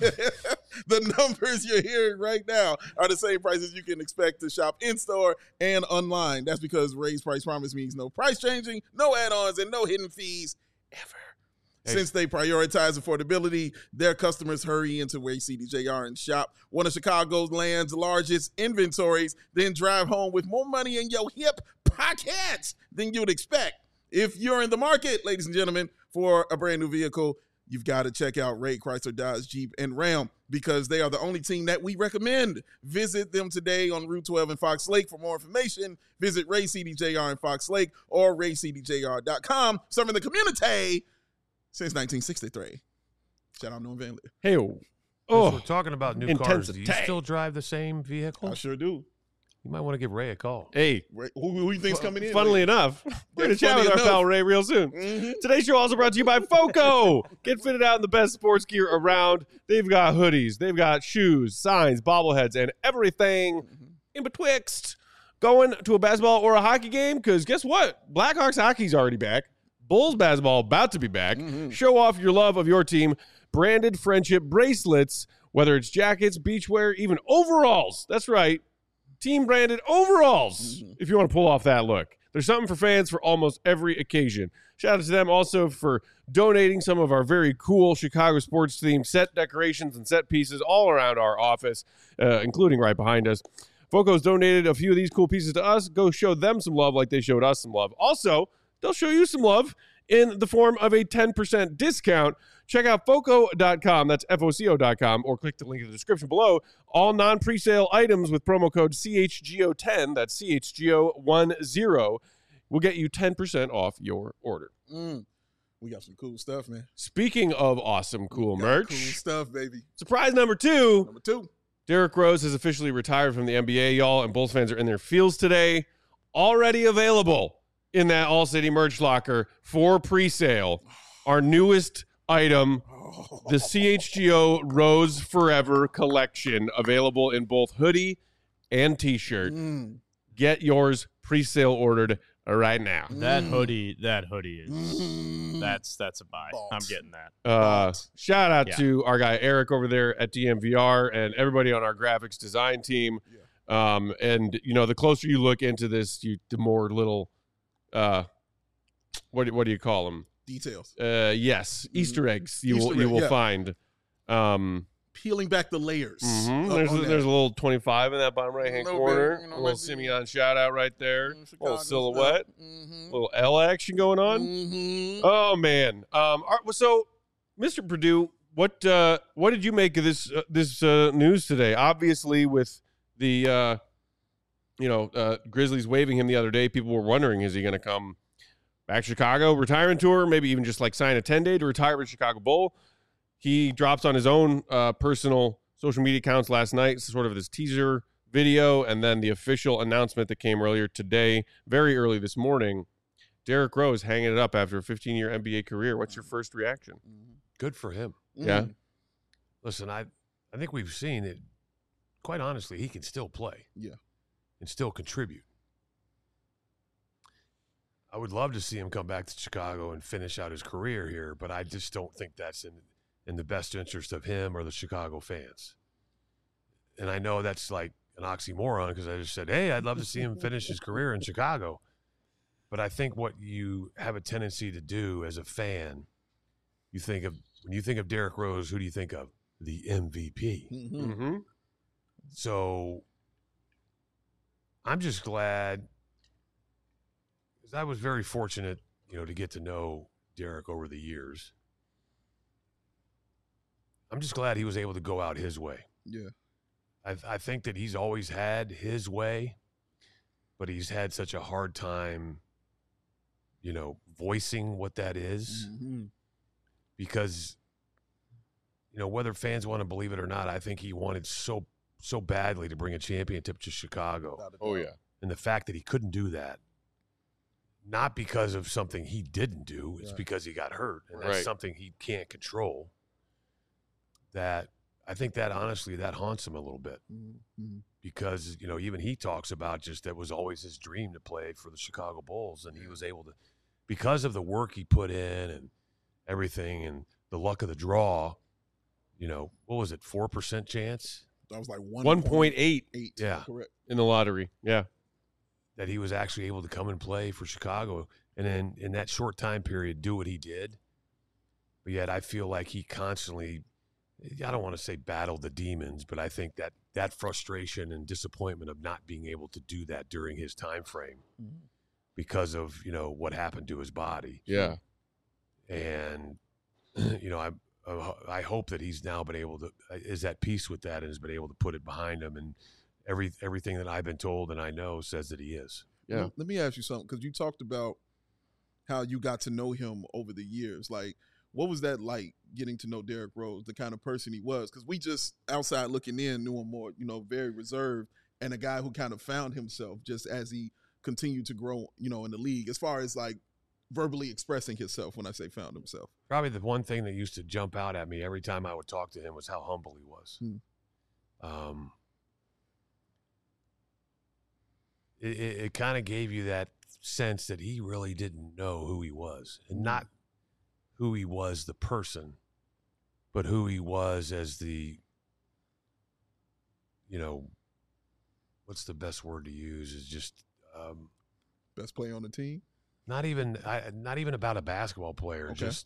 The numbers you're hearing right now are the same prices you can expect to shop in-store and online. That's because Ray's Price Promise means no price changing, no add-ons, and no hidden fees ever. Hey. Since they prioritize affordability, their customers hurry into Ray C D J R and shop one of Chicago's land's largest inventories, then drive home with more money in your hip pockets than you'd expect. If you're in the market, ladies and gentlemen, for a brand new vehicle, you've got to check out Ray Chrysler, Dodge, Jeep, and Ram because they are the only team that we recommend. Visit them today on Route twelve in Fox Lake. For more information, visit Ray C D J R in Fox Lake or ray c d j r dot com. Serving the community since nineteen sixty-three. Shout out Norm Van Leer. Hey, Oh, oh, we're talking about new cars. Do you intensity. still drive the same vehicle? I sure do. You might want to give Ray a call. hey. Ray, who, who you think's coming in? Funnily enough, we're going to chat funny with our enough. pal Ray real soon. Mhm. Today's show also brought to you by FOCO. Get fitted out in the best sports gear around. They've got hoodies, they've got shoes, signs, bobbleheads, and everything in betwixt. Going to a basketball or a hockey game? Because guess what? Blackhawks hockey's already back. Bulls basketball about to be back. Mhm. Show off your love of your team. Branded friendship bracelets, whether it's jackets, beachwear, even overalls. That's right. Team branded overalls, Mhm. if you want to pull off that look. There's something for fans for almost every occasion. Shout out to them also for donating some of our very cool Chicago sports themed set decorations and set pieces all around our office, uh, including right behind us. Foco's donated a few of these cool pieces to us. Go show them some love like they showed us some love. Also, they'll show you some love in the form of a ten percent discount. Check out foco dot com, that's F O C O dot com, or click the link in the description below. All non-presale items with promo code C H G O ten, that's C H G O ten, will get you ten percent off your order. Mm. We got some cool stuff, man. Speaking of awesome, cool Got merch, Cool stuff, baby. surprise number two, Number two. Derrick Rose has officially retired from the N B A, y'all, and Bulls fans are in their fields today. Already available in that All-City merch locker for pre-sale. Our newest item, the C H G O Rose Forever collection, available in both hoodie and t-shirt. Mm. Get yours pre-sale ordered right now. That Mm. hoodie, that hoodie is Mm. that's that's a buy. Balls. I'm getting that. Uh, shout out Yeah. to our guy Eric over there at D M V R and everybody on our graphics design team. Um, and you know, the closer you look into this, you the more little, uh, what do- what do you call them? Details. Uh, yes, Easter eggs you will Easter you egg, will yeah. find. Um, Peeling back the layers. mhm. up There's a, on that. there's a little twenty-five in that bottom right hand Little corner. bit, you know, a little might be- Simeon shout out right there. Mm, little Chicago silhouette. stuff. Mhm. Little L action going on. Mhm. Oh man. Um. all right, well, so, Mister Purdue, what uh, what did you make of this uh, this uh, news today? Obviously, with the uh, you know uh, Grizzlies waiving him the other day, people were wondering, is he going to come back to Chicago, retirement tour, maybe even just like sign a ten day to retire with Chicago Bull? He drops on his own uh, personal social media accounts last night, sort of this teaser video, and then the official announcement that came earlier today, very early this morning. Derrick Rose hanging it up after a fifteen-year N B A career. What's your first reaction? Good for him. Yeah. Mhm. Listen, I I think we've seen it. Quite honestly, he can still play. Yeah. And still contribute. I would love to see him come back to Chicago and finish out his career here, but I just don't think that's in in the best interest of him or the Chicago fans. And I know that's like an oxymoron because I just said, hey, I'd love to see him finish his career in Chicago. But I think what you have a tendency to do as a fan, you think of when you think of Derrick Rose, who do you think of? The M V P. Mhm. Mm-hmm. So I'm just glad because I was very fortunate, you know, to get to know Derrick over the years. I'm just glad he was able to go out his way. Yeah. I, I think that he's always had his way, but he's had such a hard time, you know, voicing what that is Mhm. because, you know, whether fans want to believe it or not, I think he wanted so, so badly to bring a championship to Chicago. Without a Oh doubt. yeah. And the fact that he couldn't do that, not because of something he didn't do, it's Right. because he got hurt. And that's Right. something he can't control. That I think that honestly, that haunts him a little bit Mhm. because, you know, even he talks about just that was always his dream to play for the Chicago Bulls. And he was able to, because of the work he put in and, everything and the luck of the draw, you know, what was it, four percent chance? That was like one one point eight eight. Yeah. Correct. in the lottery. Yeah. That he was actually able to come and play for Chicago and then in that short time period do what he did. But yet I feel like he constantly, I don't want to say battled the demons, but I think that that frustration and disappointment of not being able to do that during his time frame mm-hmm. because of, you know, what happened to his body. Yeah. And, you know, I I hope that he's now been able to, is at peace with that and has been able to put it behind him. And every everything that I've been told and I know says that he is. Yeah. Let me ask you something, because you talked about how you got to know him over the years. Like, what was that like, getting to know Derrick Rose, the kind of person he was? Because we just, outside looking in, knew him more, you know, very reserved, and a guy who kind of found himself just as he continued to grow, you know, in the league, as far as like verbally expressing himself. When I say found himself, probably the one thing that used to jump out at me every time I would talk to him was how humble he was. Hmm. Um, it it, it kind of gave you that sense that he really didn't know who he was, and not who he was the person, but who he was as the, you know, what's the best word to use, is just um, best player on the team. Not even, I, not even about a basketball player. Okay. Just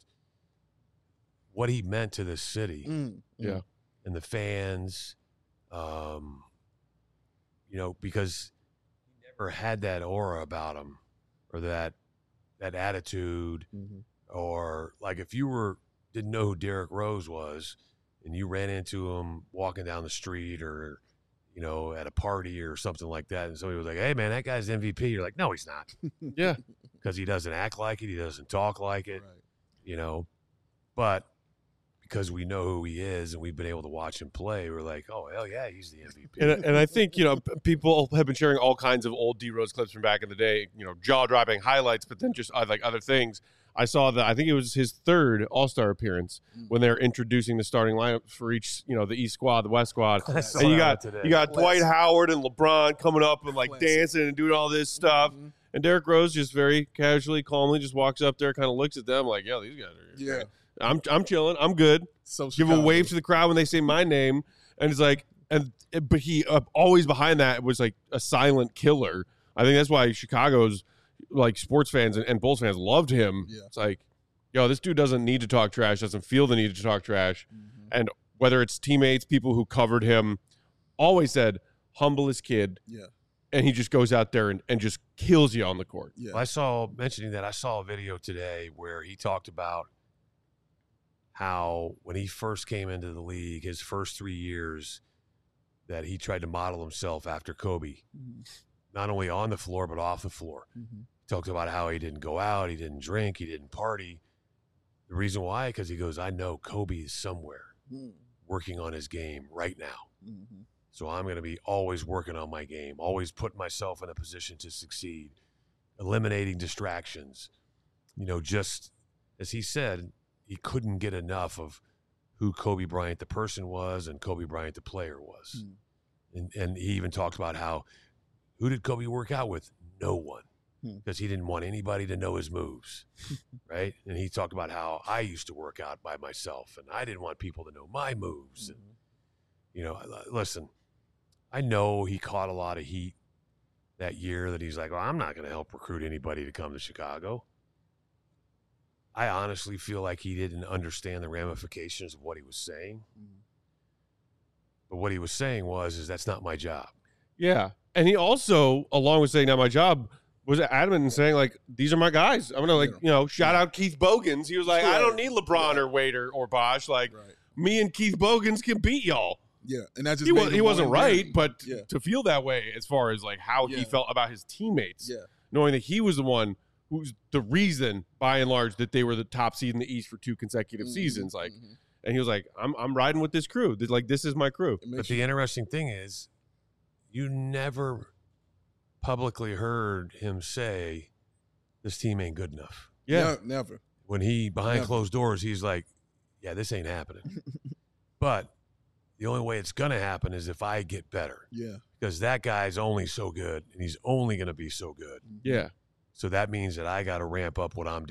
what he meant to this city, mm, yeah, and the fans. Um, you know, because he never had that aura about him, or that that attitude, mm-hmm. or like if you were didn't know who Derrick Rose was, and you ran into him walking down the street, or you know, at a party or something like that, and somebody was like, "Hey, man, that guy's M V P." You're like, "No, he's not." Yeah. Because he doesn't act like it. He doesn't talk like it, right. you know. But because we know who he is and we've been able to watch him play, we're like, oh, hell yeah, he's the M V P. And, and I think, you know, people have been sharing all kinds of old D Rose clips from back in the day, you know, jaw-dropping highlights, but then just uh, like other things. I saw that, I think it was his third All-Star appearance when they're introducing the starting lineup for each, you know, the East squad, the West squad. And you got you got Dwight Howard and LeBron coming up and like Classic. dancing and doing all this stuff. Mm-hmm. And Derrick Rose just very casually, calmly just walks up there, kind of looks at them like, "Yeah, these guys are yeah. I'm I'm chilling. I'm good." So give a wave to the crowd when they say my name, and it's like, and but he uh, always behind that was like a silent killer. I think that's why Chicago's like sports fans and, and Bulls fans loved him. Yeah. It's like, yo, this dude doesn't need to talk trash, doesn't feel the need to talk trash, mm-hmm. and whether it's teammates, people who covered him, always said humblest kid. Yeah. And he just goes out there and, and just kills you on the court. Yeah. Well, I saw, mentioning that, I saw a video today where he talked about how when he first came into the league, his first three years, that he tried to model himself after Kobe, mm-hmm. not only on the floor, but off the floor. Mm-hmm. He talked about how he didn't go out, he didn't drink, he didn't party. The reason why, because he goes, I know Kobe is somewhere mm-hmm. working on his game right now. Mm-hmm. So I'm going to be always working on my game, always putting myself in a position to succeed, eliminating distractions. You know, just as he said, he couldn't get enough of who Kobe Bryant the person was and Kobe Bryant the player was. Mm. And and he even talked about how, who did Kobe work out with? No one, because mm. he didn't want anybody to know his moves, right? And he talked about how I used to work out by myself, and I didn't want people to know my moves. Mm-hmm. And, you know, listen, I know he caught a lot of heat that year that he's like, well, I'm not going to help recruit anybody to come to Chicago. I honestly feel like he didn't understand the ramifications of what he was saying. Mm-hmm. But what he was saying was, is that's not my job. Yeah. And he also, along with saying not my job, was adamant in saying, like, these are my guys. I'm going to, like, yeah. you know, shout out Keith Bogans. He was like, yeah. I don't need LeBron yeah. or Wade or, or Bosh. Like, right. me and Keith Bogans can beat y'all. Yeah, and that just he, was, he wasn't right, game. but yeah. to feel that way as far as like how yeah. he felt about his teammates, yeah. knowing that he was the one who's the reason, by and large, that they were the top seed in the East for two consecutive mm-hmm. seasons. Like, mm-hmm. and he was like, "I'm I'm riding with this crew. Like, this is my crew." But the interesting thing is, you never publicly heard him say, "This team ain't good enough." Yeah, no, never. When he behind never. closed doors, he's like, "Yeah, this ain't happening." But the only way it's going to happen is if I get better. Yeah. Because that guy's only so good, and he's only going to be so good. Yeah. So that means that I got to ramp up what I'm doing.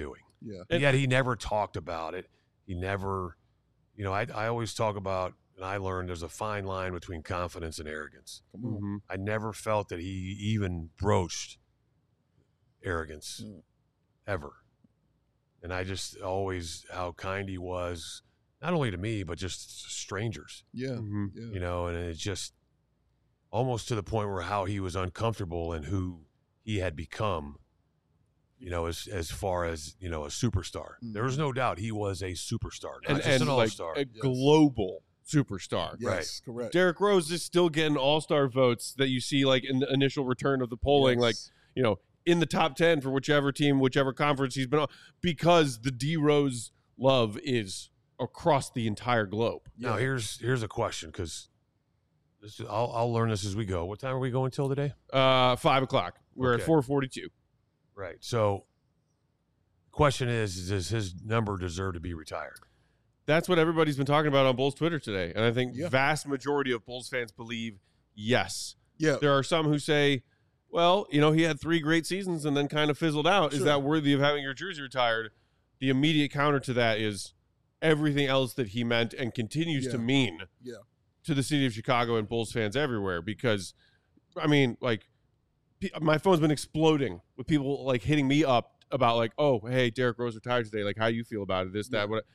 Yeah. And yet he never talked about it. He never, you know, I, I always talk about, and I learned there's a fine line between confidence and arrogance. Come on. Mm-hmm. I never felt that he even broached arrogance Mm. ever. And I just always, how kind he was, not only to me, but just strangers, Yeah. Mm-hmm. Yeah. you know, and it's just almost to the point where how he was uncomfortable and who he had become, you know, as as far as, you know, a superstar. Mhm. There was no doubt he was a superstar, not And, just and an like all-star. a global superstar. Yes, correct. Derrick Rose is still getting all-star votes that you see like in the initial return of the polling, Yes. like, you know, in the top ten for whichever team, whichever conference he's been on, because the D Rose love is across the entire globe. Now, Yeah. here's here's a question, because this is, I'll, I'll learn this as we go. What time are we going till today? Uh, five o'clock. We're Okay. at four forty-two. Right. So the question is, is, does his number deserve to be retired? That's what everybody's been talking about on Bulls Twitter today. And I think Yeah. vast majority of Bulls fans believe yes. Yeah. There are some who say, well, you know, he had three great seasons and then kind of fizzled out. Is Sure. that worthy of having your jersey retired? The immediate counter to that is everything else that he meant and continues Yeah. to mean Yeah. to the city of Chicago and Bulls fans everywhere. Because, I mean, like, pe- my phone's been exploding with people, like, hitting me up about, like, oh, hey, Derrick Rose retired today. Like, how you feel about it? This, that, what.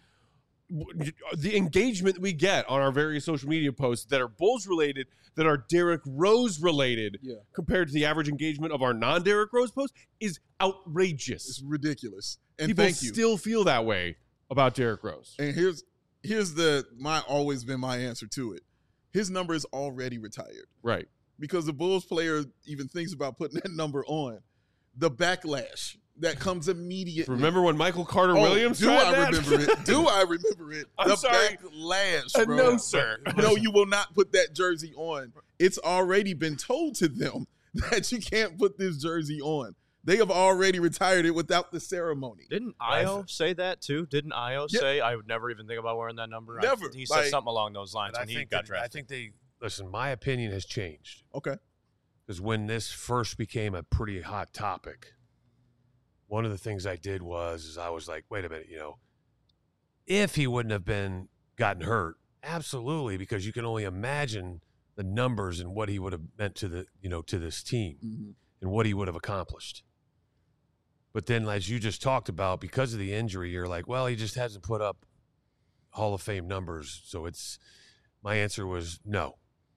The engagement we get on our various social media posts that are Bulls related, that are Derrick Rose related, Yeah. compared to the average engagement of our non-Derrick Rose posts is outrageous. It's ridiculous. And People thank you. still feel that way about Derrick Rose. And here's here's the my always been my answer to it. His number is already retired Right. because the Bulls player even thinks about putting that number on. The backlash that comes immediately. Remember when Michael Carter Oh, Williams do tried I that? remember it? Do I remember it? I'm the sorry. backlash, Uh, bro. no, sir. No, you will not put that jersey on. It's already been told to them that you can't put this jersey on. They have already retired it without the ceremony. Didn't Io say that too? Didn't Io Yeah. say I would never even think about wearing that number? I- Never. he said Like- something along those lines But I when he think got that- I drafted. think they listen. My opinion has changed Okay. because when this first became a pretty hot topic, one of the things I did was is I was like, wait a minute, you know, if he wouldn't have been gotten hurt, absolutely, because you can only imagine the numbers and what he would have meant to the you know to this team Mhm. and what he would have accomplished. But then, as you just talked about, because of the injury, you're like, well, he just hasn't put up Hall of Fame numbers. So it's my answer was no.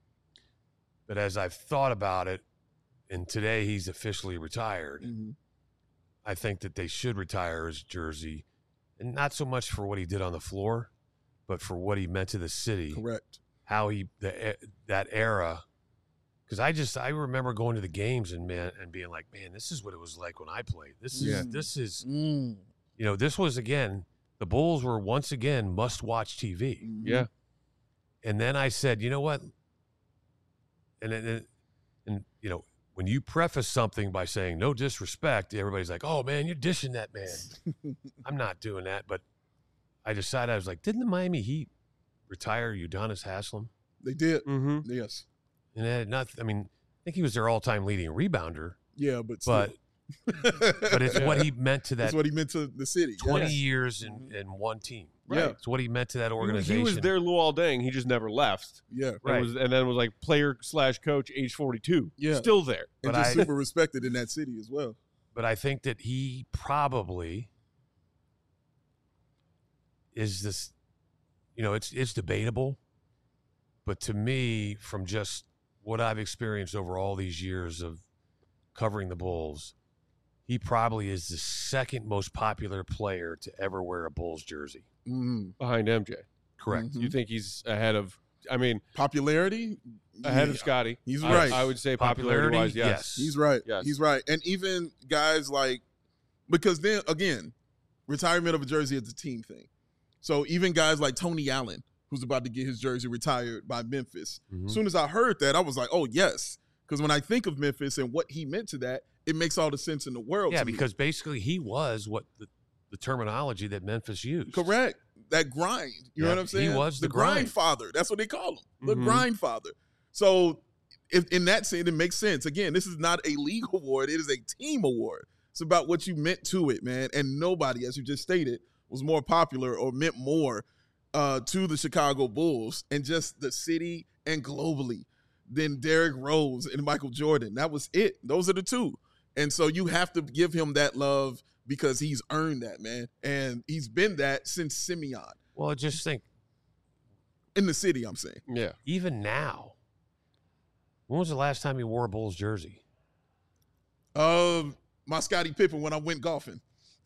But as I've thought about it, and today he's officially retired, Mhm. I think that they should retire his jersey, and not so much for what he did on the floor, but for what he meant to the city, Correct. how he the, that era. Because I just I remember going to the games and man and being like, man, this is what it was like when I played. This is Yeah. this is Mm. you know this was again the Bulls were once again must watch T V. Mhm. Yeah. And then I said, you know what? And and, and you know when you preface something by saying no disrespect, everybody's like, oh man, you're dishing that man. I'm not doing that, but I decided I was like, didn't the Miami Heat retire Udonis Haslem? They did. Mm-hmm. Yes. And it had not. I mean, I think he was their all-time leading rebounder, Yeah, but but still. but it's what he meant to that That's what he meant to the city. twenty Yes. years in, in one team. Yeah. It's what he meant to that He organization. was their Luol Deng. He just never left. Yeah. And, Right. was, and then was like player slash coach, age forty-two. Yeah. Still there. And But just I- super respected in that city as well. But I think that he probably is this. You know, it's it's debatable, but to me, from just what I've experienced over all these years of covering the Bulls, he probably is the second most popular player to ever wear a Bulls jersey. Mm. Behind M J. Correct. Mhm. You think he's ahead of, I mean, Popularity? ahead Yeah. of Scotty? He's I- right. I, would say Popularity, popularity-wise, yes. yes. He's right. Yes. He's right. And even guys like, because then again, retirement of a jersey is a team thing. So even guys like Tony Allen, who's about to get his jersey retired by Memphis. Mhm. As soon as I heard that, I was like, oh, yes. Because when I think of Memphis and what he meant to that, it makes all the sense in the world Yeah, to me. because basically he was what the, the terminology that Memphis used. Correct. That grind. You know Yeah, what I'm he saying? was the grind. grind. father. That's what they call him. The Mhm. grind father. So if in that sense, it makes sense. Again, this is not a league award. It is a team award. It's about what you meant to it, man. And nobody, as you just stated, was more popular or meant more uh, to the Chicago Bulls and just the city and globally than Derrick Rose and Michael Jordan. That was it. Those are the two. And so you have to give him that love because he's earned that, man. And he's been that since Simeon. Well, I just think. In the city, I'm saying. Yeah. Even now, when was the last time you wore a Bulls jersey? Um, my Scottie Pippen when I went golfing.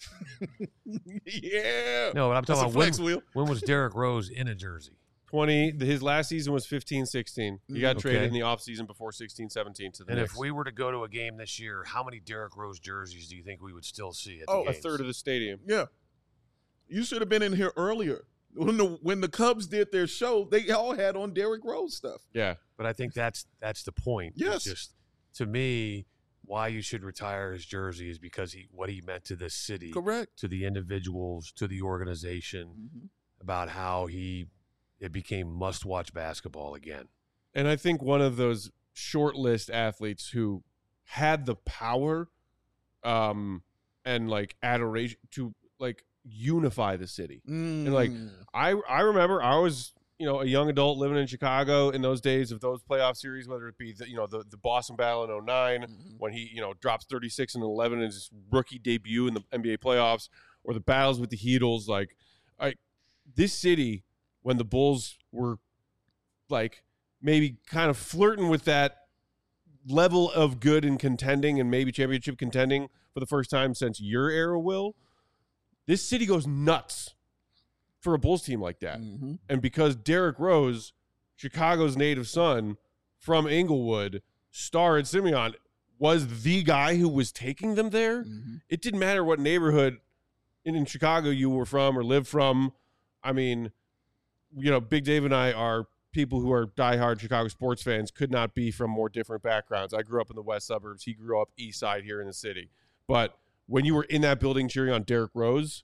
yeah. No, but I'm That's talking a about flex when, wheel. when was Derrick Rose in a jersey? twenty His last season was fifteen sixteen. He got Okay. traded in the offseason before sixteen seventeen to the And Knicks. if we were to go to a game this year, how many Derrick Rose jerseys do you think we would still see at the Oh, a games? third of the stadium. Yeah. You should have been in here earlier. When the when the Cubs did their show, they all had on Derrick Rose stuff. Yeah. But I think that's that's the point. It's Yes. just to me, why you should retire his jersey is because he what he meant to this city, Correct. to the individuals, to the organization, Mm-hmm. about how he it became must-watch basketball again. And I think one of those short list athletes who had the power um, and like adoration to like unify the city. And like I I remember I was, you know, a young adult living in Chicago in those days of those playoff series, whether it be the, you know, the, the Boston Battle in oh nine Mhm. when he, you know, drops thirty-six and eleven in his rookie debut in the N B A playoffs, or the battles with the Heatles. Like I this city, when the Bulls were like maybe kind of flirting with that level of good and contending and maybe championship contending for the first time since your era, Will, this city goes nuts for a Bulls team like that. Mm-hmm. And because Derrick Rose, Chicago's native son from Inglewood, star at Simeon, was the guy who was taking them there, Mm-hmm. it didn't matter what neighborhood in, in Chicago you were from or lived from. I mean, you know, Big Dave and I are people who are diehard Chicago sports fans, could not be from more different backgrounds. I grew up in the west suburbs. He grew up east side here in the city. But when you were in that building cheering on Derrick Rose,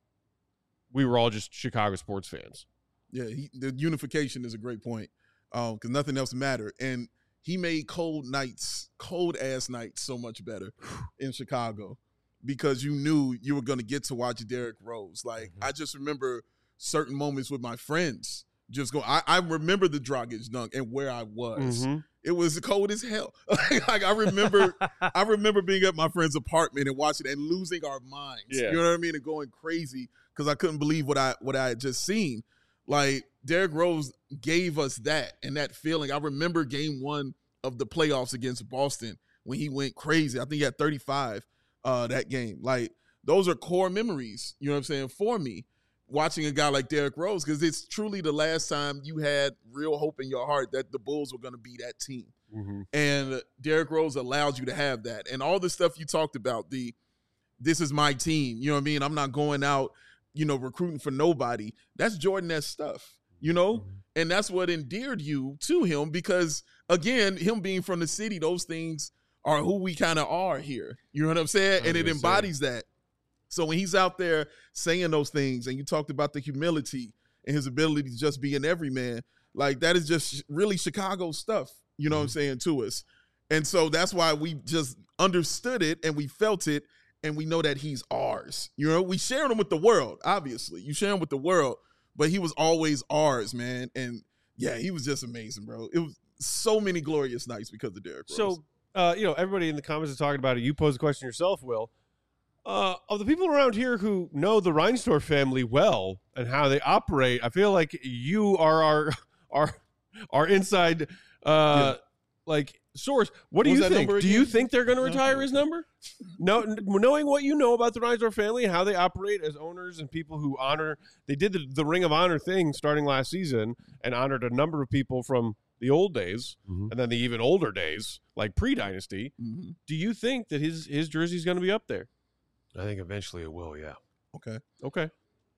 we were all just Chicago sports fans. Yeah, he, the unification is a great point because um, nothing else mattered. And he made cold nights, cold ass nights so much better in Chicago because you knew you were going to get to watch Derrick Rose. Like, Mm-hmm. I just remember certain moments with my friends just go. I, I remember the Dragic dunk and where I was. Mm-hmm. It was cold as hell. Like I remember, I remember being at my friend's apartment and watching it and losing our minds. Yeah. You know what I mean? And going crazy because I couldn't believe what I what I had just seen. Like Derrick Rose gave us that and that feeling. I remember game one of the playoffs against Boston when he went crazy. I think he had thirty-five uh, that game. Like those are core memories, you know what I'm saying, for me, watching a guy like Derrick Rose, because it's truly the last time you had real hope in your heart that the Bulls were going to be that team. Mm-hmm. And Derrick Rose allows you to have that. And all the stuff you talked about, the this is my team, you know what I mean? I'm not going out, you know, recruiting for nobody. That's Jordan-esque stuff, you know? Mm-hmm. And that's what endeared you to him because, again, him being from the city, those things are who we kind of are here. You know what I'm saying? And it gonna say. embodies that. So when he's out there saying those things, and you talked about the humility and his ability to just be an everyman, like that is just really Chicago stuff, you know what I'm saying, to us. And so that's why we just understood it and we felt it and we know that he's ours. You know, we shared him with the world, obviously. You share him with the world, but he was always ours, man. And yeah, he was just amazing, bro. It was so many glorious nights because of Derrick Rose. So, uh, you know, everybody in the comments is talking about it. You posed the question yourself, Will. Uh, of the people around here who know the Reinsdorf family well and how they operate, I feel like you are our our our inside uh, Yeah. like source. What do What was you that think? number Do you again? think they're going to No. retire his number? No, n- knowing what you know about the Reinsdorf family, how they operate as owners and people who honor. They did the, the Ring of Honor thing starting last season and honored a number of people from the old days Mhm. and then the even older days, like pre-dynasty. Mhm. Do you think that his his jersey's going to be up there? I think eventually it will, yeah. Okay. Okay.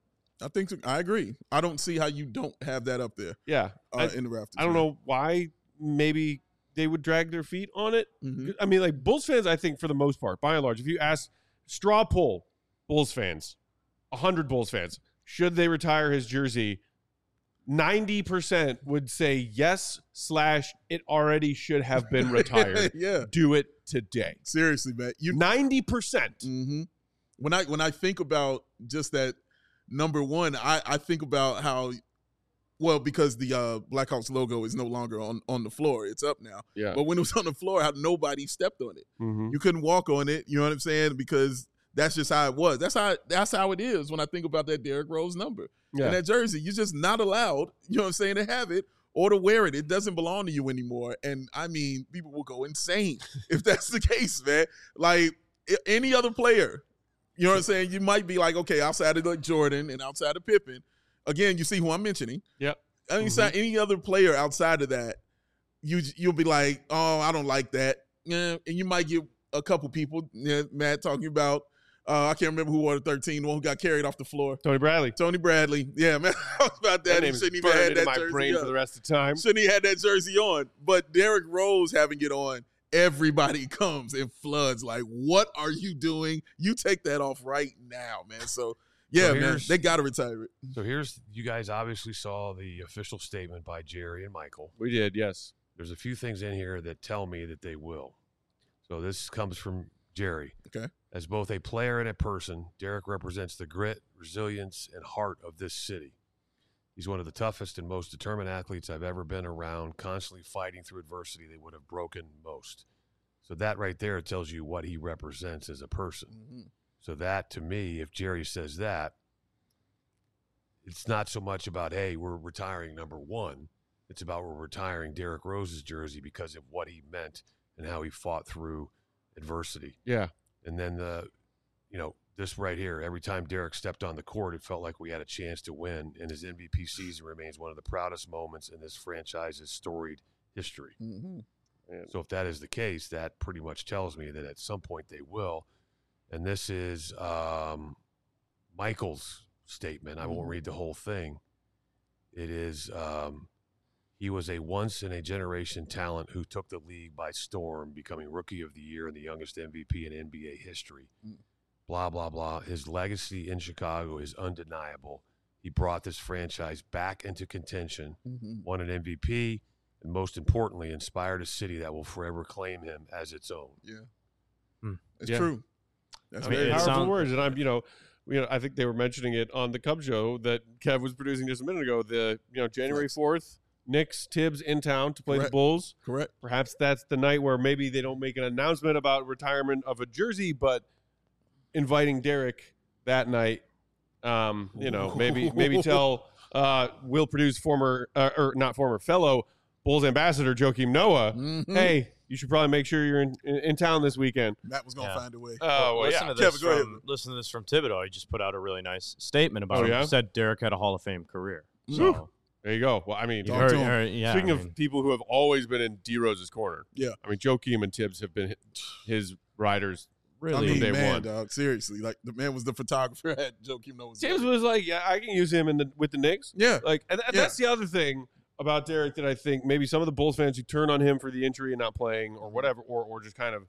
I think so. I agree. I don't see how you don't have that up there Yeah. uh, I, in the rafters. I don't know why maybe they would drag their feet on it. Mm-hmm. I mean, like Bulls fans, I think for the most part, by and large, if you ask straw poll Bulls fans, one hundred Bulls fans, should they retire his jersey? ninety percent would say yes slash it already should have been retired. Yeah. Do it today. Seriously, man. You ninety percent. Mm-hmm. When I when I think about just that number one, I, I think about how, well, because the uh, Blackhawks logo is no longer on, on the floor. It's up now. Yeah. But when it was on the floor, how nobody stepped on it. Mm-hmm. You couldn't walk on it. You know what I'm saying? Because that's just how it was. That's how that's how it is when I think about that Derrick Rose number. Yeah. And that jersey, you're just not allowed, you know what I'm saying, to have it or to wear it. It doesn't belong to you anymore. And, I mean, people will go insane if that's the case, man. Like, any other player, you know what I'm saying, you might be like, okay, outside of like Jordan and outside of Pippen, again, you see who I'm mentioning. Yep. I mean, Mm-hmm. any other player outside of that, you, you'll be like, oh, I don't like that. Yeah, and you might get a couple people, yeah, Matt, talking about, Uh, I can't remember who wore the thirteen, the one who got carried off the floor. Tony Bradley. Tony Bradley. Yeah, man. I was about that. That He name's shouldn't even burned had into that my jersey brain on. for the rest of the time. Shouldn't he had that jersey on? But Derrick Rose having it on, everybody comes and floods. Like, what are you doing? You take that off right now, man. So, yeah, So man, here's- they got to retire it. So here's, you guys obviously saw the official statement by Jerry and Michael. We did, yes. There's a few things in here that tell me that they will. So this comes from Jerry. Okay. As both a player and a person, Derrick represents the grit, resilience, and heart of this city. He's one of the toughest and most determined athletes I've ever been around, constantly fighting through adversity that would have broken most. So that right there tells you what he represents as a person. Mm-hmm. So that, to me, if Jerry says that, it's not so much about, hey, we're retiring number one. It's about we're retiring Derrick Rose's jersey because of what he meant and how he fought through adversity. Yeah. And then the, you know, this right here, every time Derrick stepped on the court, it felt like we had a chance to win. And his M V P season remains one of the proudest moments in this franchise's storied history. Mm-hmm. So if that is the case, that pretty much tells me that at some point they will. And this is um, Michael's statement. I won't read the whole thing. It is, um, he was a once-in-a-generation talent who took the league by storm, becoming Rookie of the Year and the youngest M V P in N B A history. Mm. Blah, blah, blah. His legacy in Chicago is undeniable. He brought this franchise back into contention, Mm-hmm. won an M V P, and most importantly, inspired a city that will forever claim him as its own. Yeah. Hmm. It's Yeah. true. That's I mean, very it true. Powerful sound- words. And I'm, you know, you know, I think they were mentioning it on the Cub show that Kev was producing just a minute ago. The, you know, January fourth, Knicks, Tibbs in town to play Correct. the Bulls. Correct. Perhaps that's the night where maybe they don't make an announcement about retirement of a jersey, but inviting Derrick that night, um, you know, maybe maybe tell uh, Will Purdue's former, uh, or not former, fellow Bulls ambassador Joakim Noah, Mhm. hey, you should probably make sure you're in, in, in town this weekend. Matt was going to Yeah. find a way. Oh, well, listen yeah. to this Kevin, go ahead. from listen to this from Thibodeau. He just put out a really nice statement about Oh, him. yeah? He said Derrick had a Hall of Fame career. Whew. So There you go. Well, I mean, you've Talk heard, to him. heard- yeah. speaking I of mean, people who have always been in D Rose's corner, Yeah. I mean, Joakim and Tibbs have been his riders. really, I mean, day man, one. dog, seriously. Like, the man was the photographer at Joakim Noah's. Tibbs was like, yeah, I can use him in the with the Knicks. Yeah. Like, and, and Yeah. that's the other thing about Derrick that I think maybe some of the Bulls fans who turn on him for the injury and not playing or whatever, or or just kind of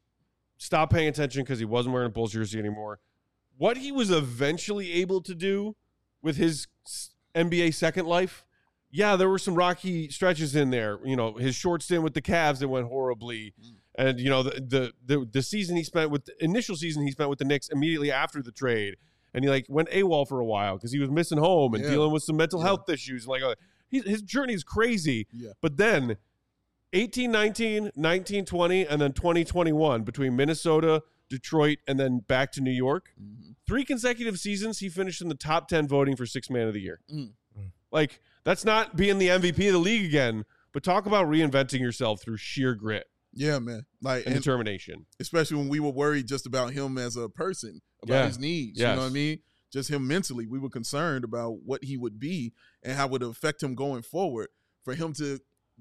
stop paying attention because he wasn't wearing a Bulls jersey anymore. What he was eventually able to do with his s- N B A second life, yeah, there were some rocky stretches in there. You know, his short stint with the Cavs that went horribly. And, you know, the, the the the season he spent with the initial season he spent with the Knicks immediately after the trade. And he like went AWOL for a while because he was missing home and Yeah. dealing with some mental Yeah. health issues. Like uh, he, his journey is crazy. Yeah. But then eighteen nineteen, nineteen twenty, and then twenty twenty-one between Minnesota, Detroit, and then back to New York. Mhm. Three consecutive seasons he finished in the top ten voting for sixth man of the year. Mm. Like, that's not being the M V P of the league again, but talk about reinventing yourself through sheer grit Yeah, man. Like, and and determination. especially when we were worried just about him as a person, about Yeah. his needs. Yes. You know what I mean? Just him mentally. We were concerned about what he would be and how it would affect him going forward. For him to,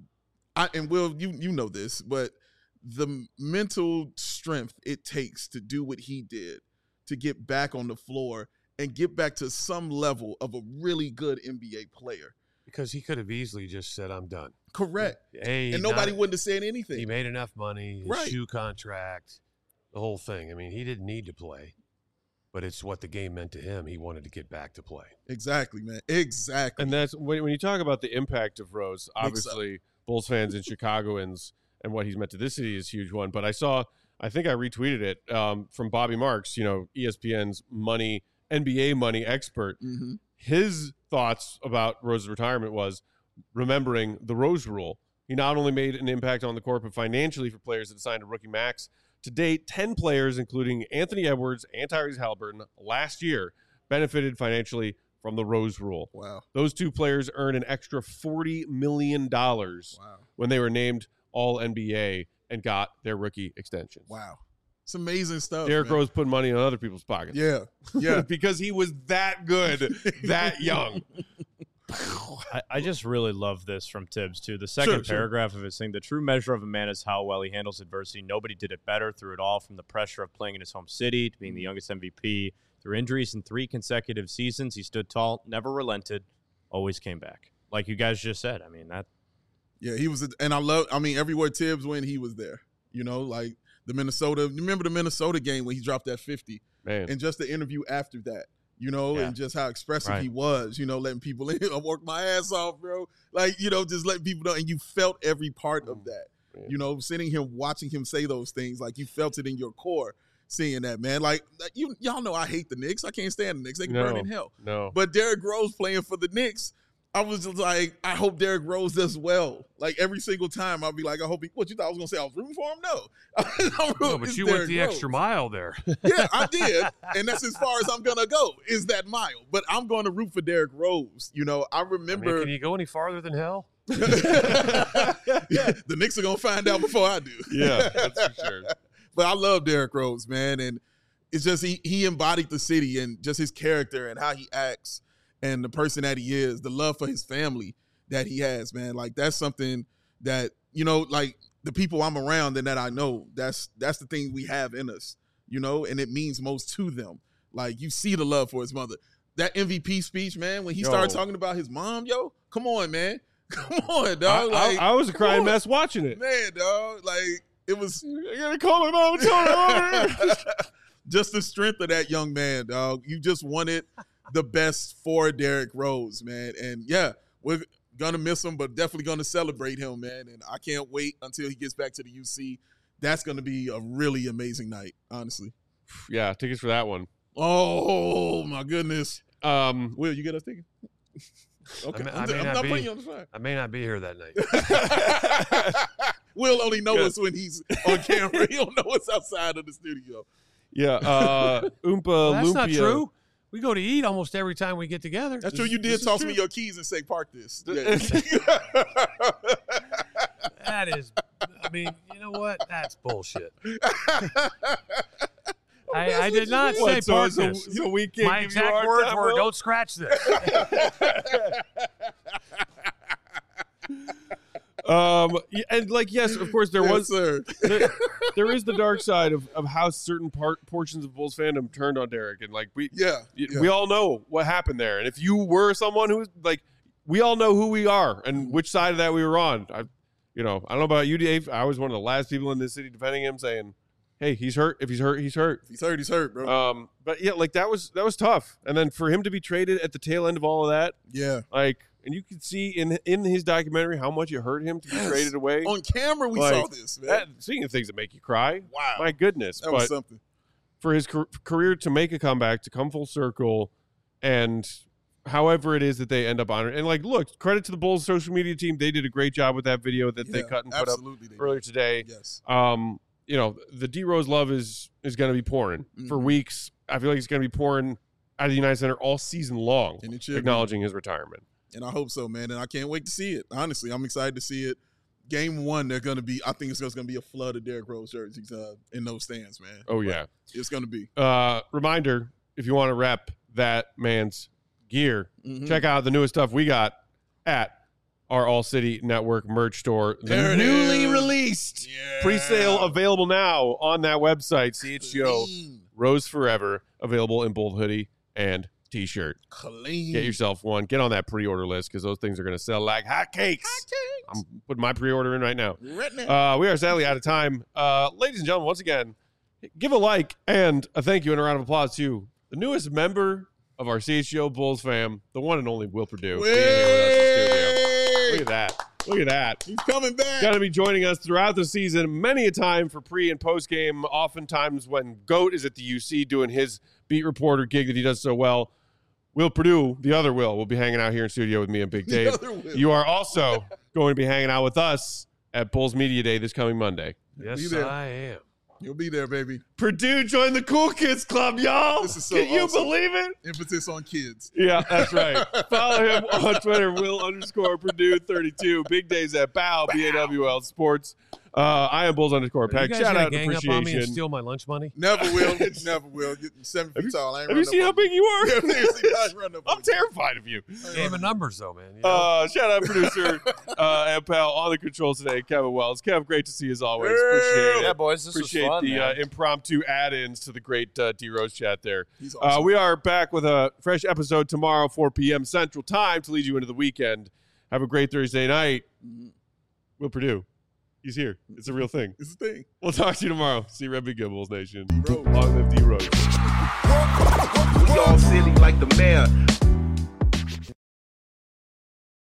I and Will, you you know this, but the mental strength it takes to do what he did, to get back on the floor and get back to some level of a really good N B A player. Because he could have easily just said, I'm done. Correct. Hey, And nobody not- wouldn't have said He anything. made enough money, his Right. shoe contract, the whole thing. I mean, he didn't need to play, but it's what the game meant to him. He wanted to get back to play. Exactly, man. Exactly. And that's when, when you talk about the impact of Rose, Makes obviously Bulls fans and Chicagoans and what he's meant to this city is a huge one. But I saw, I think I retweeted it um, from Bobby Marks, you know, E S P N's money, N B A money expert. Mm-hmm. His thoughts about Rose's retirement was remembering the Rose Rule. He not only made an impact on the court, but financially for players that signed a rookie max. To date, ten players, including Anthony Edwards and Tyrese Halliburton, last year benefited financially from the Rose Rule. Wow. Those two players earned an extra forty million dollars Wow. when they were named All N B A and got their rookie extensions. Wow. It's amazing stuff. Derrick man. Rose put money in other people's pockets. Yeah. Yeah. because he was that good, that young. I, I just really love this from Tibbs, too. The second Sure, sure. paragraph of his thing, the true measure of a man is how well he handles adversity. Nobody did it better through it all, from the pressure of playing in his home city to being the youngest M V P. Through injuries in three consecutive seasons, he stood tall, never relented, always came back. Like you guys just said. I mean, that. Yeah, he was, and I love, I mean, everywhere Tibbs went, he was there. You know, like the Minnesota, remember the Minnesota game when he dropped that fifty? Man. And just the interview after that, you know, Yeah. and just how expressive Right. he was, you know, letting people in. I worked my ass off, bro. Like, you know, just letting people know. And you felt every part of that. Yeah. You know, sitting here watching him say those things, like you felt it in your core, seeing that, man. Like, like, you, y'all know I hate the Knicks. I can't stand the Knicks. They can No. burn in hell. No. But Derrick Rose playing for the Knicks, I was just like, I hope Derrick Rose does well. Like every single time, I'll be like, I hope he. What you thought I was gonna say? I was rooting for him? No, I'm No, rooting- but it's you went Derrick the Rose. extra mile there. Yeah, I did, and that's as far as I'm gonna go. Is that mile? But I'm going to root for Derrick Rose. You know, I I mean, remember can you go any farther than hell? the Knicks are gonna find out before I do. Yeah, that's for sure. But I love Derrick Rose, man, and it's just he he embodied the city and just his character and how he acts and the person that he is, the love for his family that he has, man. Like that's something that, you know, like the people I'm around and that I know, that's that's the thing we have in us, you know, and it means most to them. Like you see the love for his mother. That M V P speech, man, when he Yo. started talking about his mom, yo, come on, man. Come on, I, dog. I- Like, I was a crying come on. mess watching it. man, dog. Like it was I gotta call my mom and tell her. just the strength of that young man, dog. You just wanted the best for Derrick Rose, man. And yeah, we're gonna miss him, but definitely gonna celebrate him, man. And I can't wait until he gets back to the U C. That's gonna be a really amazing night, honestly. Yeah, tickets for that one. Oh my goodness. Um, Will, you get us tickets? Okay, I may- I'm, I may I'm not not be. putting you on the spot. I may not be here that night. Will only know Yeah. us when he's on camera. He don't know us outside of the studio. yeah, uh, Oompa Well, that's not Lumpia. true. We go to eat almost every time we get together. That's true. You this did is toss true. me your keys and say, "Park this." That is, I mean, you know what? That's bullshit. I, I did not say What, so, park so, this. so we can't My give you a exact hard words time, were, Will? "Don't scratch this." Um, y- and like, yes, of course, there Yes, was sir. there, there is the dark side of, of how certain part portions of Bulls fandom turned on Derrick, and like we Yeah, y- yeah. we all know what happened there. And if you were someone who's like, we all know who we are and which side of that we were on. I, you know, I don't know about you, Dave. I was one of the last people in this city defending him, saying, "Hey, he's hurt. If he's hurt, he's hurt." If he's hurt, he's hurt, bro. Um, but yeah, like that was that was tough. And then for him to be traded at the tail end of all of that, yeah. like, and you could see in in his documentary how much it hurt him to be Yes. traded away. On camera, we Like, saw this, man. That, seeing the things that make you cry. wow. My goodness. that was But something. for his car- career to make a comeback, to come full circle, and however it is that they end up honoring. And like, look, credit to the Bulls social media team. They did a great job with that video that they Yeah, cut and put up absolutely they did. earlier today. Yes. Um, you know, the D Rose love is is going to be pouring for Mhm. weeks. I feel like it's going to be pouring out of the United Center all season long, And it should be. acknowledging his retirement. And I hope so, man. And I can't wait to see it. Honestly, I'm excited to see it. Game one, they're going to be, I think it's just going to be a flood of Derrick Rose jerseys uh, in those stands, man. Oh yeah. It's going to be. Uh, reminder: if you want to rep that man's gear, Mhm. check out the newest stuff we got at our All City Network merch store. The There it newly is. released Yeah. pre-sale available now on that website. C H G O Clean. Rose Forever, available in both hoodie and t-shirt. Clean. Get yourself one. Get on that pre-order list because those things are going to sell like hotcakes. I'm putting my pre-order in right now. Right now. Uh, we are sadly out of time. Uh, ladies and gentlemen, once again, give a like and a thank you and a round of applause to the newest member of our C H G O Bulls fam, the one and only Will Purdue. being here with us in the studio. Look at that. Look at that. He's coming back. Going to be joining us throughout the season, many a time for pre and post game. Oftentimes when Goat is at the U C doing his beat reporter gig that he does so well. Will Purdue, the other Will, will be hanging out here in studio with me and Big Dave. You are also going to be hanging out with us at Bulls Media Day this coming Monday. Yes, I am. You'll be there, baby. Purdue joined the Cool Kids Club, y'all. This is so Can you awesome. believe it? Emphasis on kids. Yeah, that's right. Follow him on Twitter, Will underscore Purdue thirty-two. Big Days at B A W, B A W L Sports. Uh, I am Bulls underscore Peck. Shout out gang appreciation. Up on me and steal my lunch money? Never will. Never will. You're seven feet Have you, tall. I ain't have you seen how big you are? Yeah, seriously, I ain't run up on I'm you. terrified of you. Game of numbers, though, man. You know? Uh, shout out producer uh, and pal on the controls today, Kevin Wells. Kev, great to see you as always. Appreciate it. Yeah, boys, this Appreciate was fun, the man. uh, impromptu add-ins to the great uh, D Rose chat there. He's awesome. Uh, we are back with a fresh episode tomorrow, four p.m. Central Time, to lead you into the weekend. Have a great Thursday night. Will Purdue, he's here. It's a real thing. It's a thing. We'll talk to you tomorrow. See you, Red Big Gibbles Nation. Rose. Long live D Rose. We all silly like the mayor.